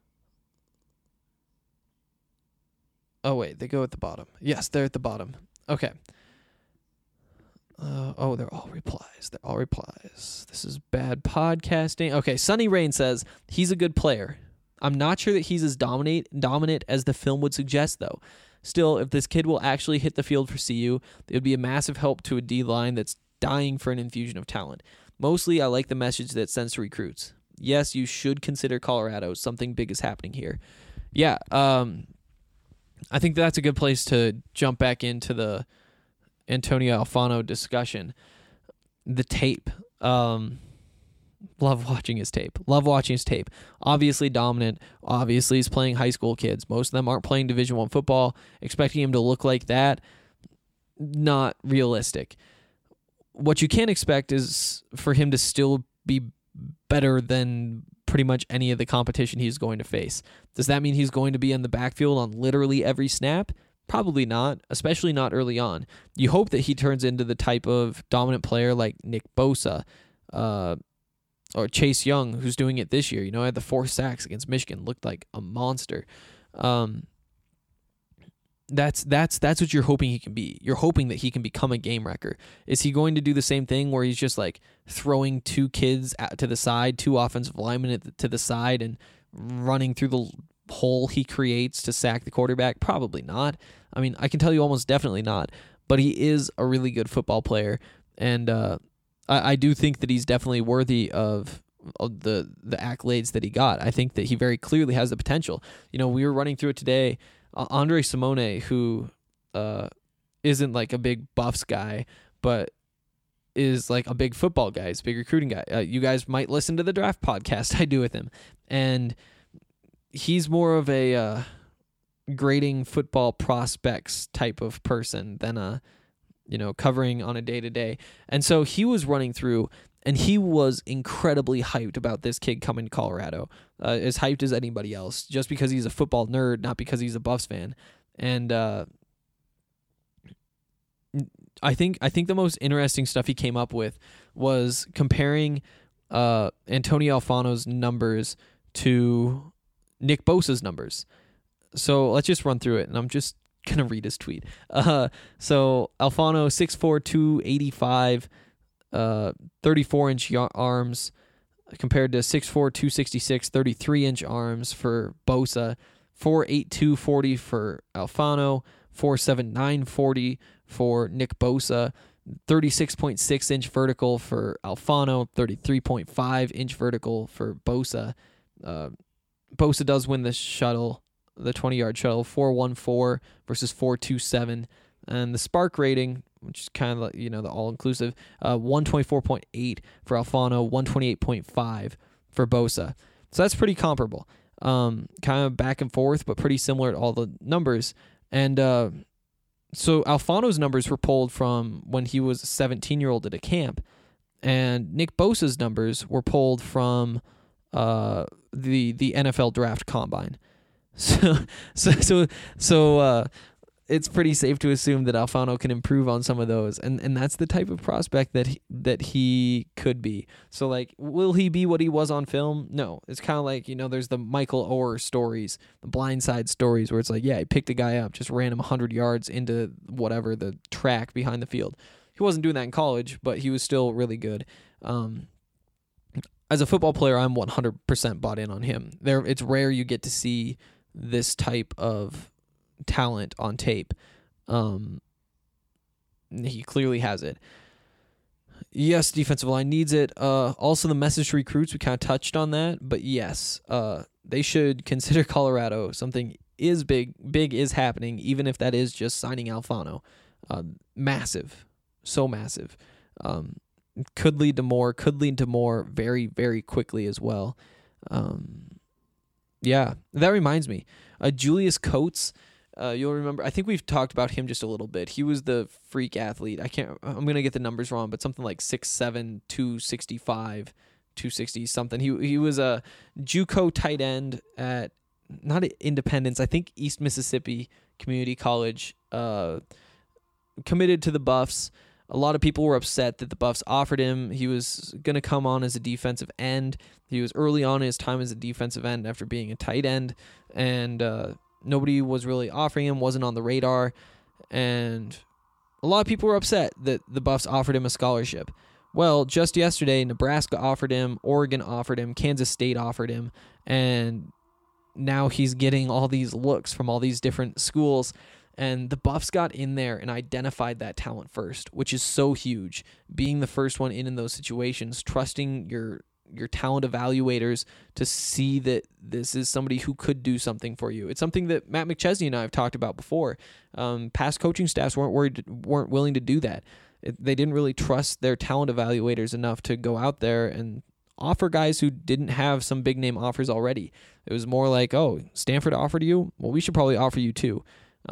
Oh, wait, they go at the bottom. Yes, they're at the bottom. Okay. They're all replies. This is bad podcasting. Okay, Sunny Rain says, he's a good player. I'm not sure that he's as dominant as the film would suggest, though. Still, if this kid will actually hit the field for CU, it would be a massive help to a D-line that's dying for an infusion of talent. Mostly, I like the message that it sends to recruits. Yes, you should consider Colorado. Something big is happening here. Yeah, I think that's a good place to jump back into the Antonio Alfano discussion. The tape. Love watching his tape. Obviously dominant. Obviously he's playing high school kids. Most of them aren't playing Division I football. Expecting him to look like that, not realistic. What you can expect is for him to still be better than pretty much any of the competition he's going to face. Does that mean he's going to be in the backfield on literally every snap? Probably not, especially not early on. You hope that he turns into the type of dominant player like Nick Bosa or Chase Young, who's doing it this year. You know, had the 4 sacks against Michigan, looked like a monster. That's what you're hoping he can be. You're hoping that he can become a game wrecker. Is he going to do the same thing where he's just like throwing 2 kids to the side, 2 offensive linemen to the side, and running through the hole he creates to sack the quarterback? Probably not. I mean, I can tell you almost definitely not. But he is a really good football player, and I do think that he's definitely worthy of the accolades that he got. I think that he very clearly has the potential. You know, we were running through it today. Andre Simone, who isn't like a big Buffs guy, but is like a big football guy, is a big recruiting guy. You guys might listen to the draft podcast I do with him. And he's more of a grading football prospects type of person than covering on a day-to-day. And so he was running through, and he was incredibly hyped about this kid coming to Colorado, as hyped as anybody else, just because he's a football nerd, not because he's a Buffs fan. And I think the most interesting stuff he came up with was comparing Antonio Alfano's numbers to Nick Bosa's numbers. So let's just run through it, and I'm just going to read his tweet. So Alfano, 6'4", 285, 34-inch arms, compared to 6'4", 266, 33-inch arms for Bosa, 4'8", 240 for Alfano, 4'7", 940 for Nick Bosa, 36.6-inch vertical for Alfano, 33.5-inch vertical for Bosa. Bosa does win the shuttle, the 20-yard shuttle, 4.14 versus 4.27, and the spark rating, which is kind of like, the all-inclusive, 124.8 for Alfano, 128.5 for Bosa. So that's pretty comparable. Kind of back and forth, but pretty similar to all the numbers. And So Alfano's numbers were pulled from when he was a 17-year-old at a camp, and Nick Bosa's numbers were pulled from the NFL draft combine. So it's pretty safe to assume that Alfano can improve on some of those, and that's the type of prospect that he could be. So, like, will he be what he was on film? No. It's kind of like, there's the Michael Oher stories, the blindside stories, where it's like, yeah, he picked a guy up, just ran him 100 yards into whatever, the track behind the field. He wasn't doing that in college, but he was still really good. As a football player, I'm 100% bought in on him. It's rare you get to see this type of talent on tape. He clearly has it. Yes, defensive line needs it. Also, the message to recruits, we kind of touched on that, but yes, they should consider Colorado. Something big is happening, even if that is just signing Alfano. Massive, so massive. Could lead to more very, very quickly as well. Yeah, that reminds me. Julius Coates, you'll remember, I think we've talked about him just a little bit. He was the freak athlete. I'm going to get the numbers wrong, but something like 6'7", 265, 260 something. He was a JUCO tight end at, not at Independence, I think East Mississippi Community College, committed to the Buffs. A lot of people were upset that the Buffs offered him. He was going to come on as a defensive end. He was early on in his time as a defensive end after being a tight end, and nobody was really offering him, wasn't on the radar, and a lot of people were upset that the Buffs offered him a scholarship. Well, just yesterday, Nebraska offered him, Oregon offered him, Kansas State offered him, and now he's getting all these looks from all these different schools. And the Buffs got in there and identified that talent first, which is so huge. Being the first one in those situations, trusting your talent evaluators to see that this is somebody who could do something for you. It's something that Matt McChesney and I have talked about before. Past coaching staffs weren't willing to do that. They didn't really trust their talent evaluators enough to go out there and offer guys who didn't have some big name offers already. It was more like, oh, Stanford offered you? Well, we should probably offer you too.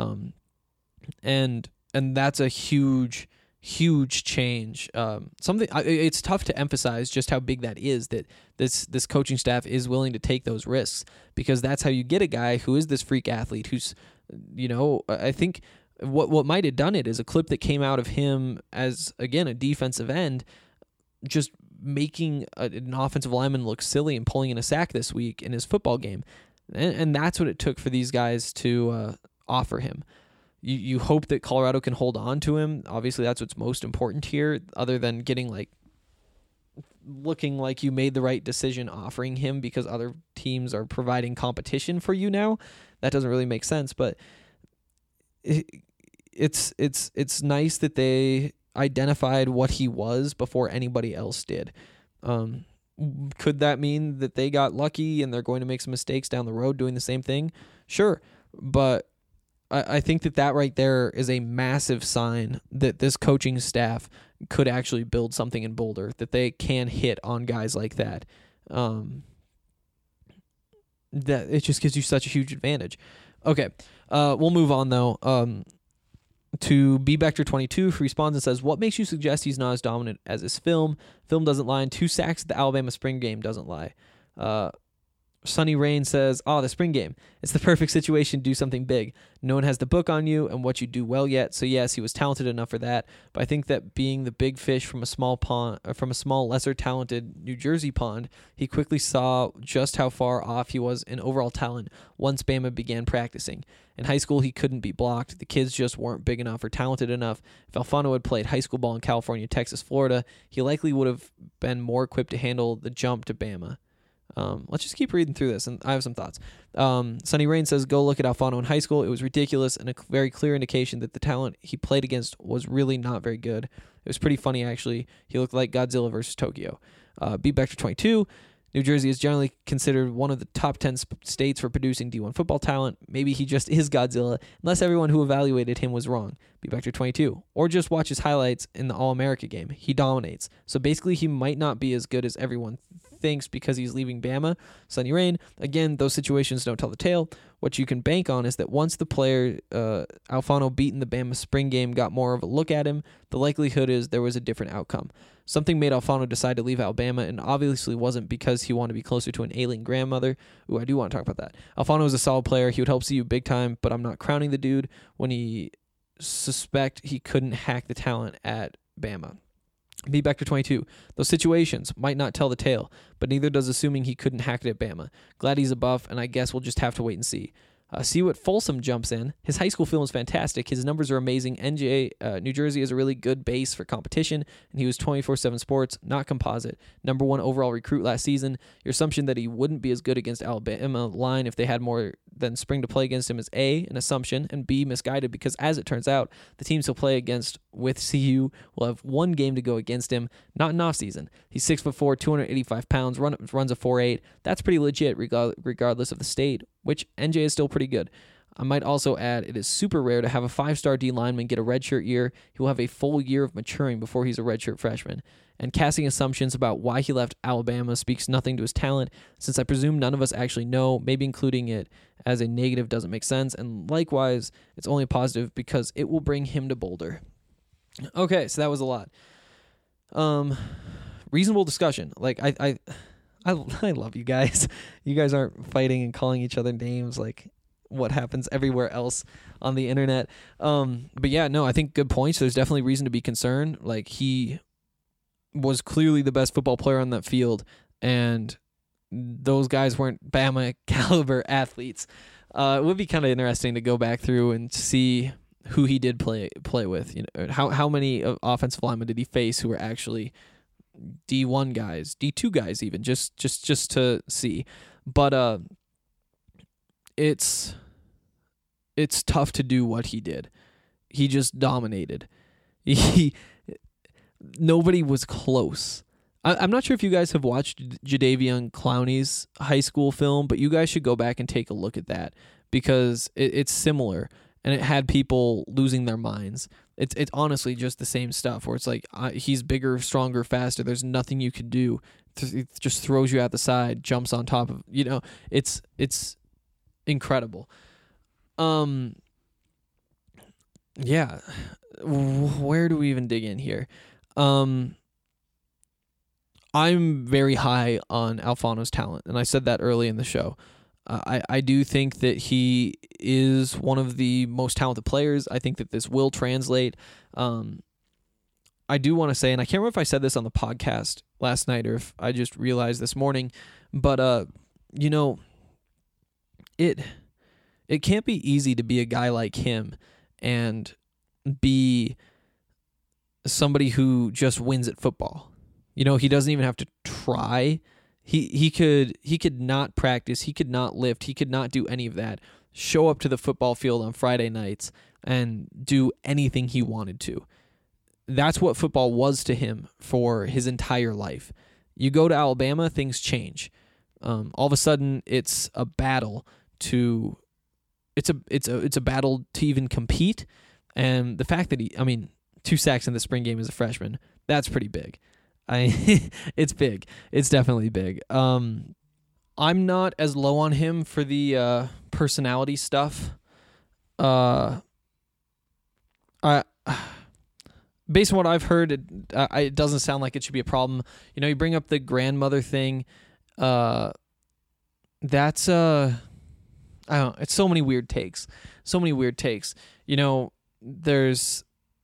And that's a huge change. It's tough to emphasize just how big that is, that this coaching staff is willing to take those risks, because that's how you get a guy who is this freak athlete who's, I think what might have done it is a clip that came out of him as, again, a defensive end, just making an offensive lineman look silly and pulling in a sack this week in his football game. And that's what it took for these guys to offer him. You hope that Colorado can hold on to him. Obviously, that's what's most important here, other than looking like you made the right decision offering him because other teams are providing competition for you now. That doesn't really make sense, but it's nice that they identified what he was before anybody else did. Could that mean that they got lucky and they're going to make some mistakes down the road doing the same thing? Sure, but I think that right there is a massive sign that this coaching staff could actually build something in Boulder, that they can hit on guys like that. That it just gives you such a huge advantage. Okay, we'll move on though. To BBector22, who responds and says, what makes you suggest he's not as dominant as his film? Film doesn't lie, and 2 sacks at the Alabama spring game doesn't lie. Sunny Rain says, the spring game. It's the perfect situation to do something big. No one has the book on you and what you do well yet. So yes, he was talented enough for that. But I think that being the big fish from a small lesser talented New Jersey pond, he quickly saw just how far off he was in overall talent once Bama began practicing. In high school, he couldn't be blocked. The kids just weren't big enough or talented enough. If Alfano had played high school ball in California, Texas, Florida, he likely would have been more equipped to handle the jump to Bama. Let's just keep reading through this, and I have some thoughts. Sunny Rain says, go look at Alfano in high school. It was ridiculous and a very clear indication that the talent he played against was really not very good. It was pretty funny, actually. He looked like Godzilla versus Tokyo. BBector22, New Jersey is generally considered one of the top 10 states for producing D1 football talent. Maybe he just is Godzilla, unless everyone who evaluated him was wrong. BBector22. Or just watch his highlights in the All-America game. He dominates. So basically, he might not be as good as everyone thinks because he's leaving Bama. Sonny Rain. Again, those situations don't tell the tale. What you can bank on is that once the player, Alfano, beaten the Bama spring game, got more of a look at him, the likelihood is there was a different outcome. Something made Alfano decide to leave Alabama, and obviously wasn't because he wanted to be closer to an ailing grandmother. Ooh, I do want to talk about that. Alfano is a solid player. He would help CU big time, but I'm not crowning the dude when he suspect he couldn't hack the talent at Bama. Be back to 22. Those situations might not tell the tale, but neither does assuming he couldn't hack it at Bama. Glad he's a buff, and I guess we'll just have to wait and see. See what Folsom jumps in. His high school film is fantastic. His numbers are amazing. New Jersey is a really good base for competition, and he was 24/7 Sports, not composite. Number 1 overall recruit last season. Your assumption that he wouldn't be as good against Alabama line if they had more than spring to play against him is A, an assumption, and B, misguided, because as it turns out, the teams he'll play against with CU will have one game to go against him, not an off-season. He's 6'4", 285 pounds, runs a 4.8. That's pretty legit regardless of the state, which NJ is still pretty good. I might also add it is super rare to have a 5-star D lineman get a redshirt year. He will have a full year of maturing before he's a redshirt freshman. And casting assumptions about why he left Alabama speaks nothing to his talent, since I presume none of us actually know. Maybe including it as a negative doesn't make sense, and likewise, it's only a positive because it will bring him to Boulder. Okay, so that was a lot. Reasonable discussion. Like I love you guys. You guys aren't fighting and calling each other names like what happens everywhere else on the internet. But yeah, no, I think good points. There's definitely reason to be concerned. Like, he was clearly the best football player on that field, and those guys weren't Bama caliber athletes. It would be kind of interesting to go back through and see who he did play with. You know, how many offensive linemen did he face who were actually D1 guys, D2 guys, even just to see. But it's tough to do what he did. He just dominated. Nobody was close. I'm not sure if you guys have watched Jadeveon Clowney's high school film, but you guys should go back and take a look at that, because it's similar, and it had people losing their minds. It's honestly just the same stuff, where it's like he's bigger, stronger, faster. There's nothing you can do. It just throws you out the side, jumps on top of, it's incredible. Yeah. Where do we even dig in here? I'm very high on Alfano's talent, and I said that early in the show. I do think that he is one of the most talented players. I think that this will translate. I do want to say, and I can't remember if I said this on the podcast last night or if I just realized this morning, but it can't be easy to be a guy like him and be somebody who just wins at football. He doesn't even have to try. He could not practice. He could not lift. He could not do any of that. Show up to the football field on Friday nights and do anything he wanted to. That's what football was to him for his entire life. You go to Alabama, things change. All of a sudden, it's a battle to. It's a battle to even compete, and the fact that 2 sacks in the spring game as a freshman, that's pretty big. It's big. It's definitely big. I'm not as low on him for the personality stuff. Based on what I've heard, it doesn't sound like it should be a problem. You bring up the grandmother thing. That's I don't know. It's so many weird takes. There's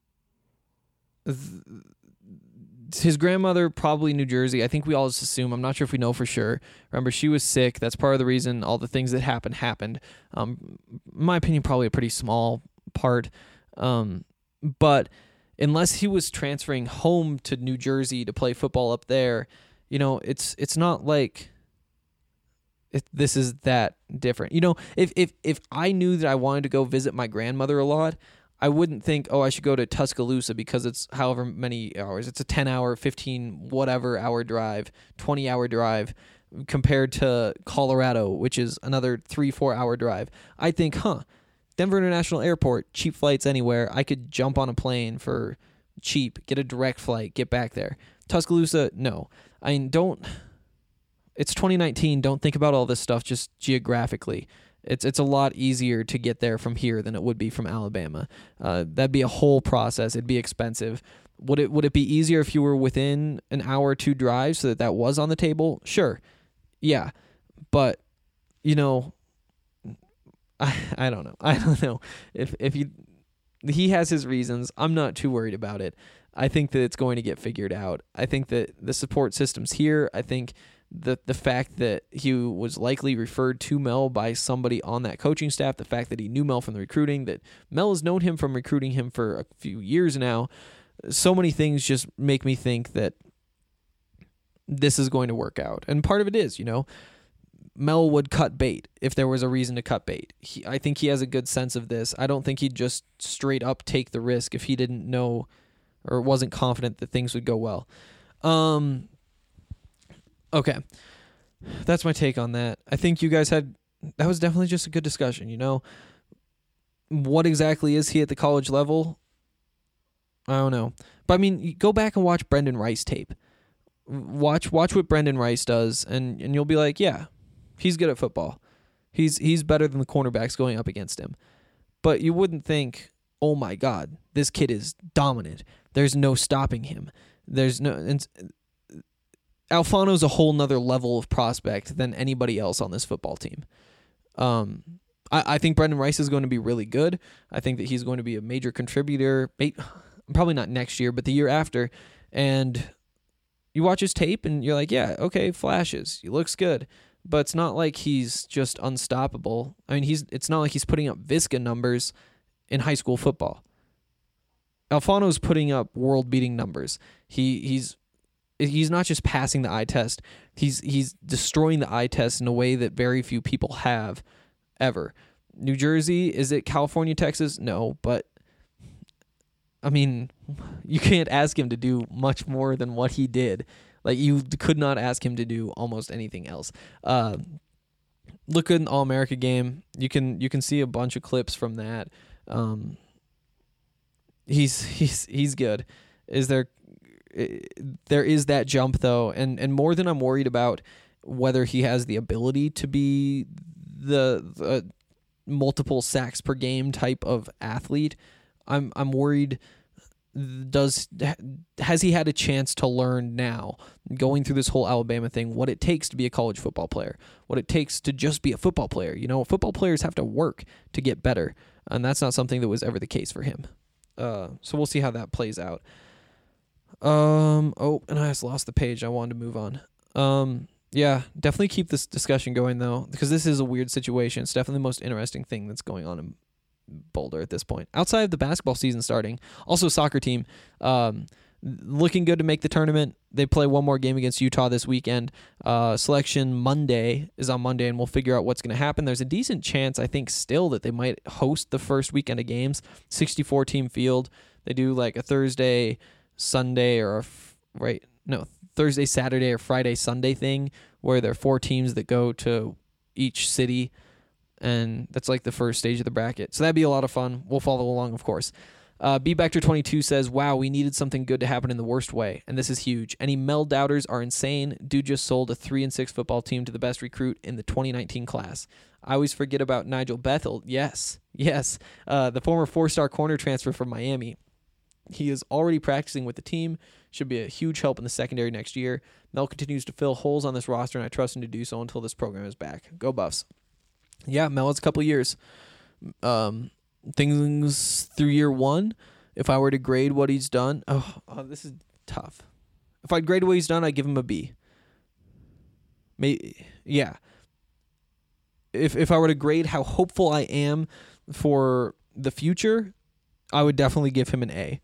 his grandmother, probably New Jersey. I think we all just assume. I'm not sure if we know for sure. Remember, she was sick. That's part of the reason all the things that happened. In my opinion, probably a pretty small part. But unless he was transferring home to New Jersey to play football up there, it's not like this is that different. If I knew that I wanted to go visit my grandmother a lot, I wouldn't think, I should go to Tuscaloosa because it's however many hours. It's a 10-hour, 15 whatever hour drive, 20-hour drive compared to Colorado, which is another 3-4 hour drive. I think, Denver International Airport, cheap flights anywhere. I could jump on a plane for cheap, get a direct flight, get back there. Tuscaloosa, no. it's 2019. Don't think about all this stuff just geographically. It's a lot easier to get there from here than it would be from Alabama. That'd be a whole process. It'd be expensive. Would it be easier if you were within an hour or two drive so that was on the table? Sure. Yeah. But, you know, I don't know. I don't know. If he has his reasons. I'm not too worried about it. I think that it's going to get figured out. I think that the support system's here. I think the fact that he was likely referred to Mel by somebody on that coaching staff, the fact that he knew Mel from the recruiting, that Mel has known him from recruiting him for a few years now, so many things just make me think that this is going to work out. And part of it is, you know, Mel would cut bait if there was a reason to cut bait. I think he has a good sense of this. I don't think he'd just straight up take the risk if he didn't know or wasn't confident that things would go well. Okay. That's my take on that. I think you guys that was definitely just a good discussion, you know. What exactly is he at the college level? I don't know. But I mean, you go back and watch Brendan Rice tape. Watch what Brendan Rice does, and you'll be like, yeah, he's good at football. He's better than the cornerbacks going up against him. But you wouldn't think, oh my God, this kid is dominant. There's no stopping him. Alfano's a whole nother level of prospect than anybody else on this football team. I think Brendan Rice is going to be really good. I think that he's going to be a major contributor, probably not next year, but the year after. And you watch his tape and you're like, yeah, okay, flashes. He looks good. But it's not like he's just unstoppable. I mean, it's not like he's putting up Visca numbers in high school football. Alfano's putting up world-beating numbers. He's not just passing the eye test. He's destroying the eye test in a way that very few people have ever. New Jersey, is it California, Texas? No, but I mean, you can't ask him to do much more than what he did. Like, you could not ask him to do almost anything else. Look at an All-America game. You can see a bunch of clips from that. He's good. There is that jump though, and more than I'm worried about whether he has the ability to be the multiple sacks per game type of athlete, I'm worried. Has he had a chance to learn now, going through this whole Alabama thing, what it takes to be a college football player, what it takes to just be a football player? You know, football players have to work to get better, and that's not something that was ever the case for him. So we'll see how that plays out. And I just lost the page. I wanted to move on. Yeah, definitely keep this discussion going though, because this is a weird situation. It's definitely the most interesting thing that's going on in Boulder at this point. Outside of the basketball season starting, also soccer team, looking good to make the tournament. They play one more game against Utah this weekend. Selection Monday is on Monday, and we'll figure out what's going to happen. There's a decent chance, I think, still that they might host the first weekend of games. 64-team field. They do like a Thursday, Sunday, or Thursday, Saturday, or Friday, Sunday thing where there are 4 teams that go to each city, and that's like the first stage of the bracket. So that'd be a lot of fun. We'll follow along, of course. B-Bector22 says, wow, we needed something good to happen in the worst way, and this is huge. Any Mel doubters are insane. Dude just sold a 3-6 football team to the best recruit in the 2019 class. I always forget about Nigel Bethel. Yes. The former 4-star corner transfer from Miami. He is already practicing with the team. Should be a huge help in the secondary next year. Mel continues to fill holes on this roster, and I trust him to do so until this program is back. Go Buffs. Yeah, Mel, it's a couple years. Things through year 1, if I were to grade what he's done, this is tough. If I'd grade what he's done, I'd give him a B. Maybe, yeah. If I were to grade how hopeful I am for the future, I would definitely give him an A.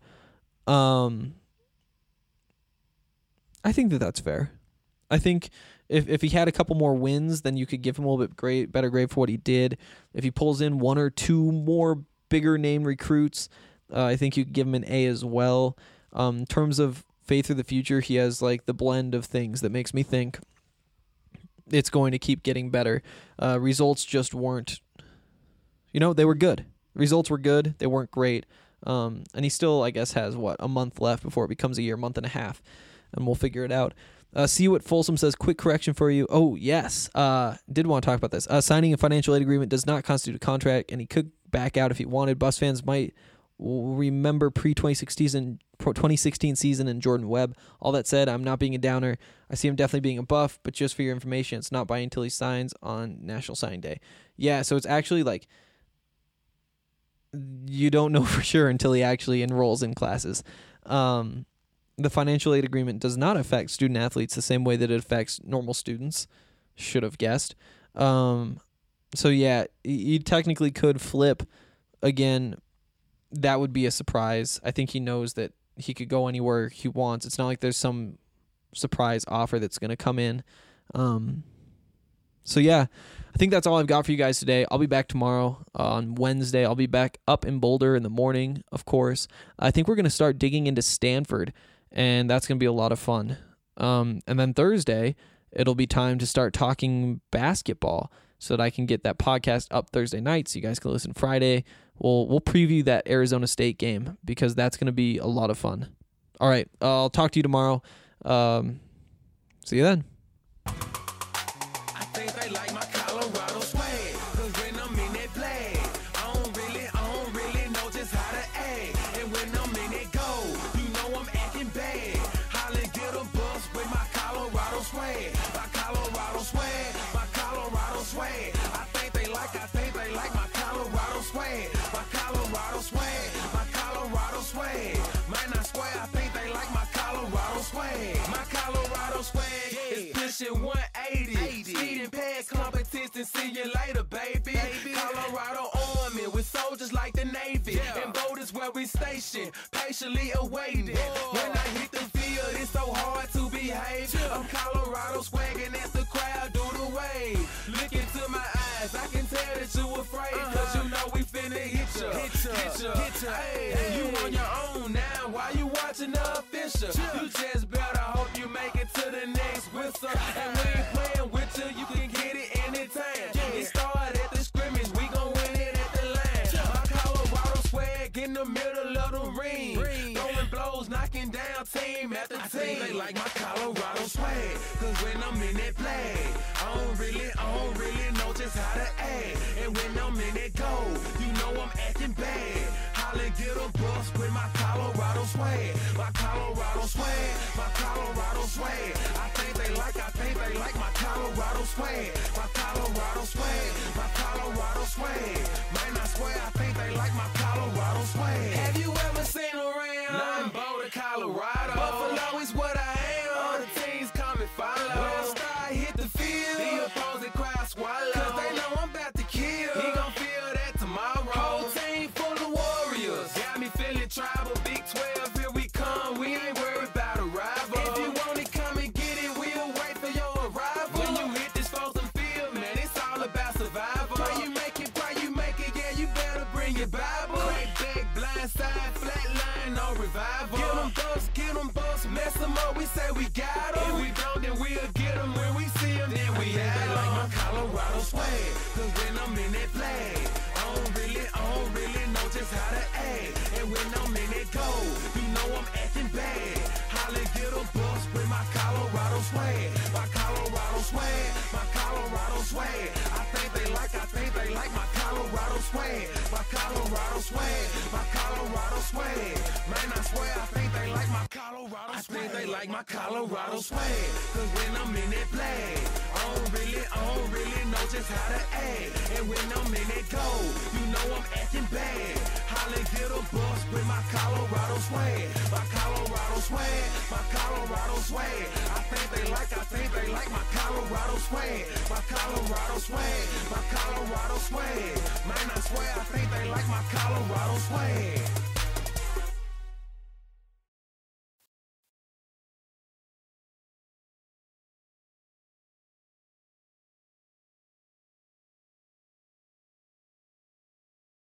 I think that's fair. I think if he had a couple more wins, then you could give him a little bit better grade for what he did. If he pulls in 1 or 2 more bigger name recruits, I think you could give him an A as well. In terms of faith for the future, he has like the blend of things that makes me think it's going to keep getting better. Results just weren't, they were good. Results were good. They weren't great. And he still, I guess, has a month left before it becomes a year, month and a half, and we'll figure it out. See what Folsom says. Quick correction for you. Oh, yes. Did want to talk about this. Signing a financial aid agreement does not constitute a contract, and he could back out if he wanted. Buffs fans might remember pre-2016 season and Jordan Webb. All that said, I'm not being a downer. I see him definitely being a Buff, but just for your information, it's not buying until he signs on National Signing Day. Yeah, so it's actually like you don't know for sure until he actually enrolls in classes. The financial aid agreement does not affect student athletes the same way that it affects normal students. Should have guessed. So yeah, he technically could flip again. That would be a surprise. I think he knows that he could go anywhere he wants. It's not like there's some surprise offer that's going to come in. So yeah, I think that's all I've got for you guys today. I'll be back tomorrow on Wednesday. I'll be back up in Boulder in the morning, of course. I think we're going to start digging into Stanford, and that's going to be a lot of fun. And then Thursday, it'll be time to start talking basketball so that I can get that podcast up Thursday night so you guys can listen Friday. We'll preview that Arizona State game because that's going to be a lot of fun. All right, I'll talk to you tomorrow. See you then. I think they like my Colorado swag, 'cause when I'm in that flag, I don't really know just how to act. And when I'm in that goal, you know I'm acting bad. Holla, get a bus with my Colorado swag. My Colorado swag, my Colorado swag. I think they like my Colorado swag. My Colorado swag, my Colorado swag. Man, I swear I think they like my Colorado swag. My Colorado swag is pushing 180. Speed and pad competition, see you later, baby. Colorado Army with soldiers like the Navy. And boat is where we station, patiently awaiting. When I hit the field, it's so hard to behave. I'm Colorado swagging as the crowd do the wave. Look into my eyes, I can tell that you afraid. 'Cause you know we finna hit ya. Hey, you on your own now, why you watching the official? You just better hope you make it to the next whistle. And we ain't playing with you can get it anytime. It started at the scrimmage, we gon' win it at the line. My Colorado swag in the middle of the ring. Throwing blows, knocking down team after team. I think they like my Colorado swag, 'cause when I'm in that flag, I don't really know just how to act. And when I'm in that goal, you know I'm acting bad. Holla, get a bus with my Colorado swag. My Colorado swag, my Colorado swag. I think they like my Colorado swag. My Colorado swag, my Colorado swag. Man, I swear I think they like my Colorado swag. Have you ever seen around? Nah, I'm Boulder, Colorado. Buffalo is what I am. All the teams come and follow. When I start hit the field, the opposing crowd swallow. 'Cause they know I'm about to kill. He gon' feel that tomorrow. Whole team full of warriors. Got me feeling tribal. Big 12, here we come. We ain't worried about a rival. If you want it, come and get it. We'll wait for your arrival. When you hit this frozen field, man, it's all about survival. Pray you make it, yeah, you better bring your Bible. Crack back, blind side, flat line, no revival. Get them bucks, mess them up, we say we got them. If we don't, then we'll get them. When we see them, then we have them. Like my Colorado swag, 'cause when I'm in that flag, I don't really know just how to act. And when I'm in that goal, you know I'm acting bad. Holla, get a bus with my Colorado swag. My Colorado swag, my Colorado swag. I think they like my Colorado swag. My Colorado swag, my Colorado swag. Man, I swear I think they like my Colorado swag. I think they like my Colorado swag. 'Cause when I'm in that flag, I don't really know just how to act. And when I'm in that goal, you know I'm acting bad. Holla, get a bus with my Colorado swag. My Colorado swag, my Colorado swag. I think they like my Colorado swag. My Colorado swag, my Colorado swag. Man, I swear I think they like my Colorado swag.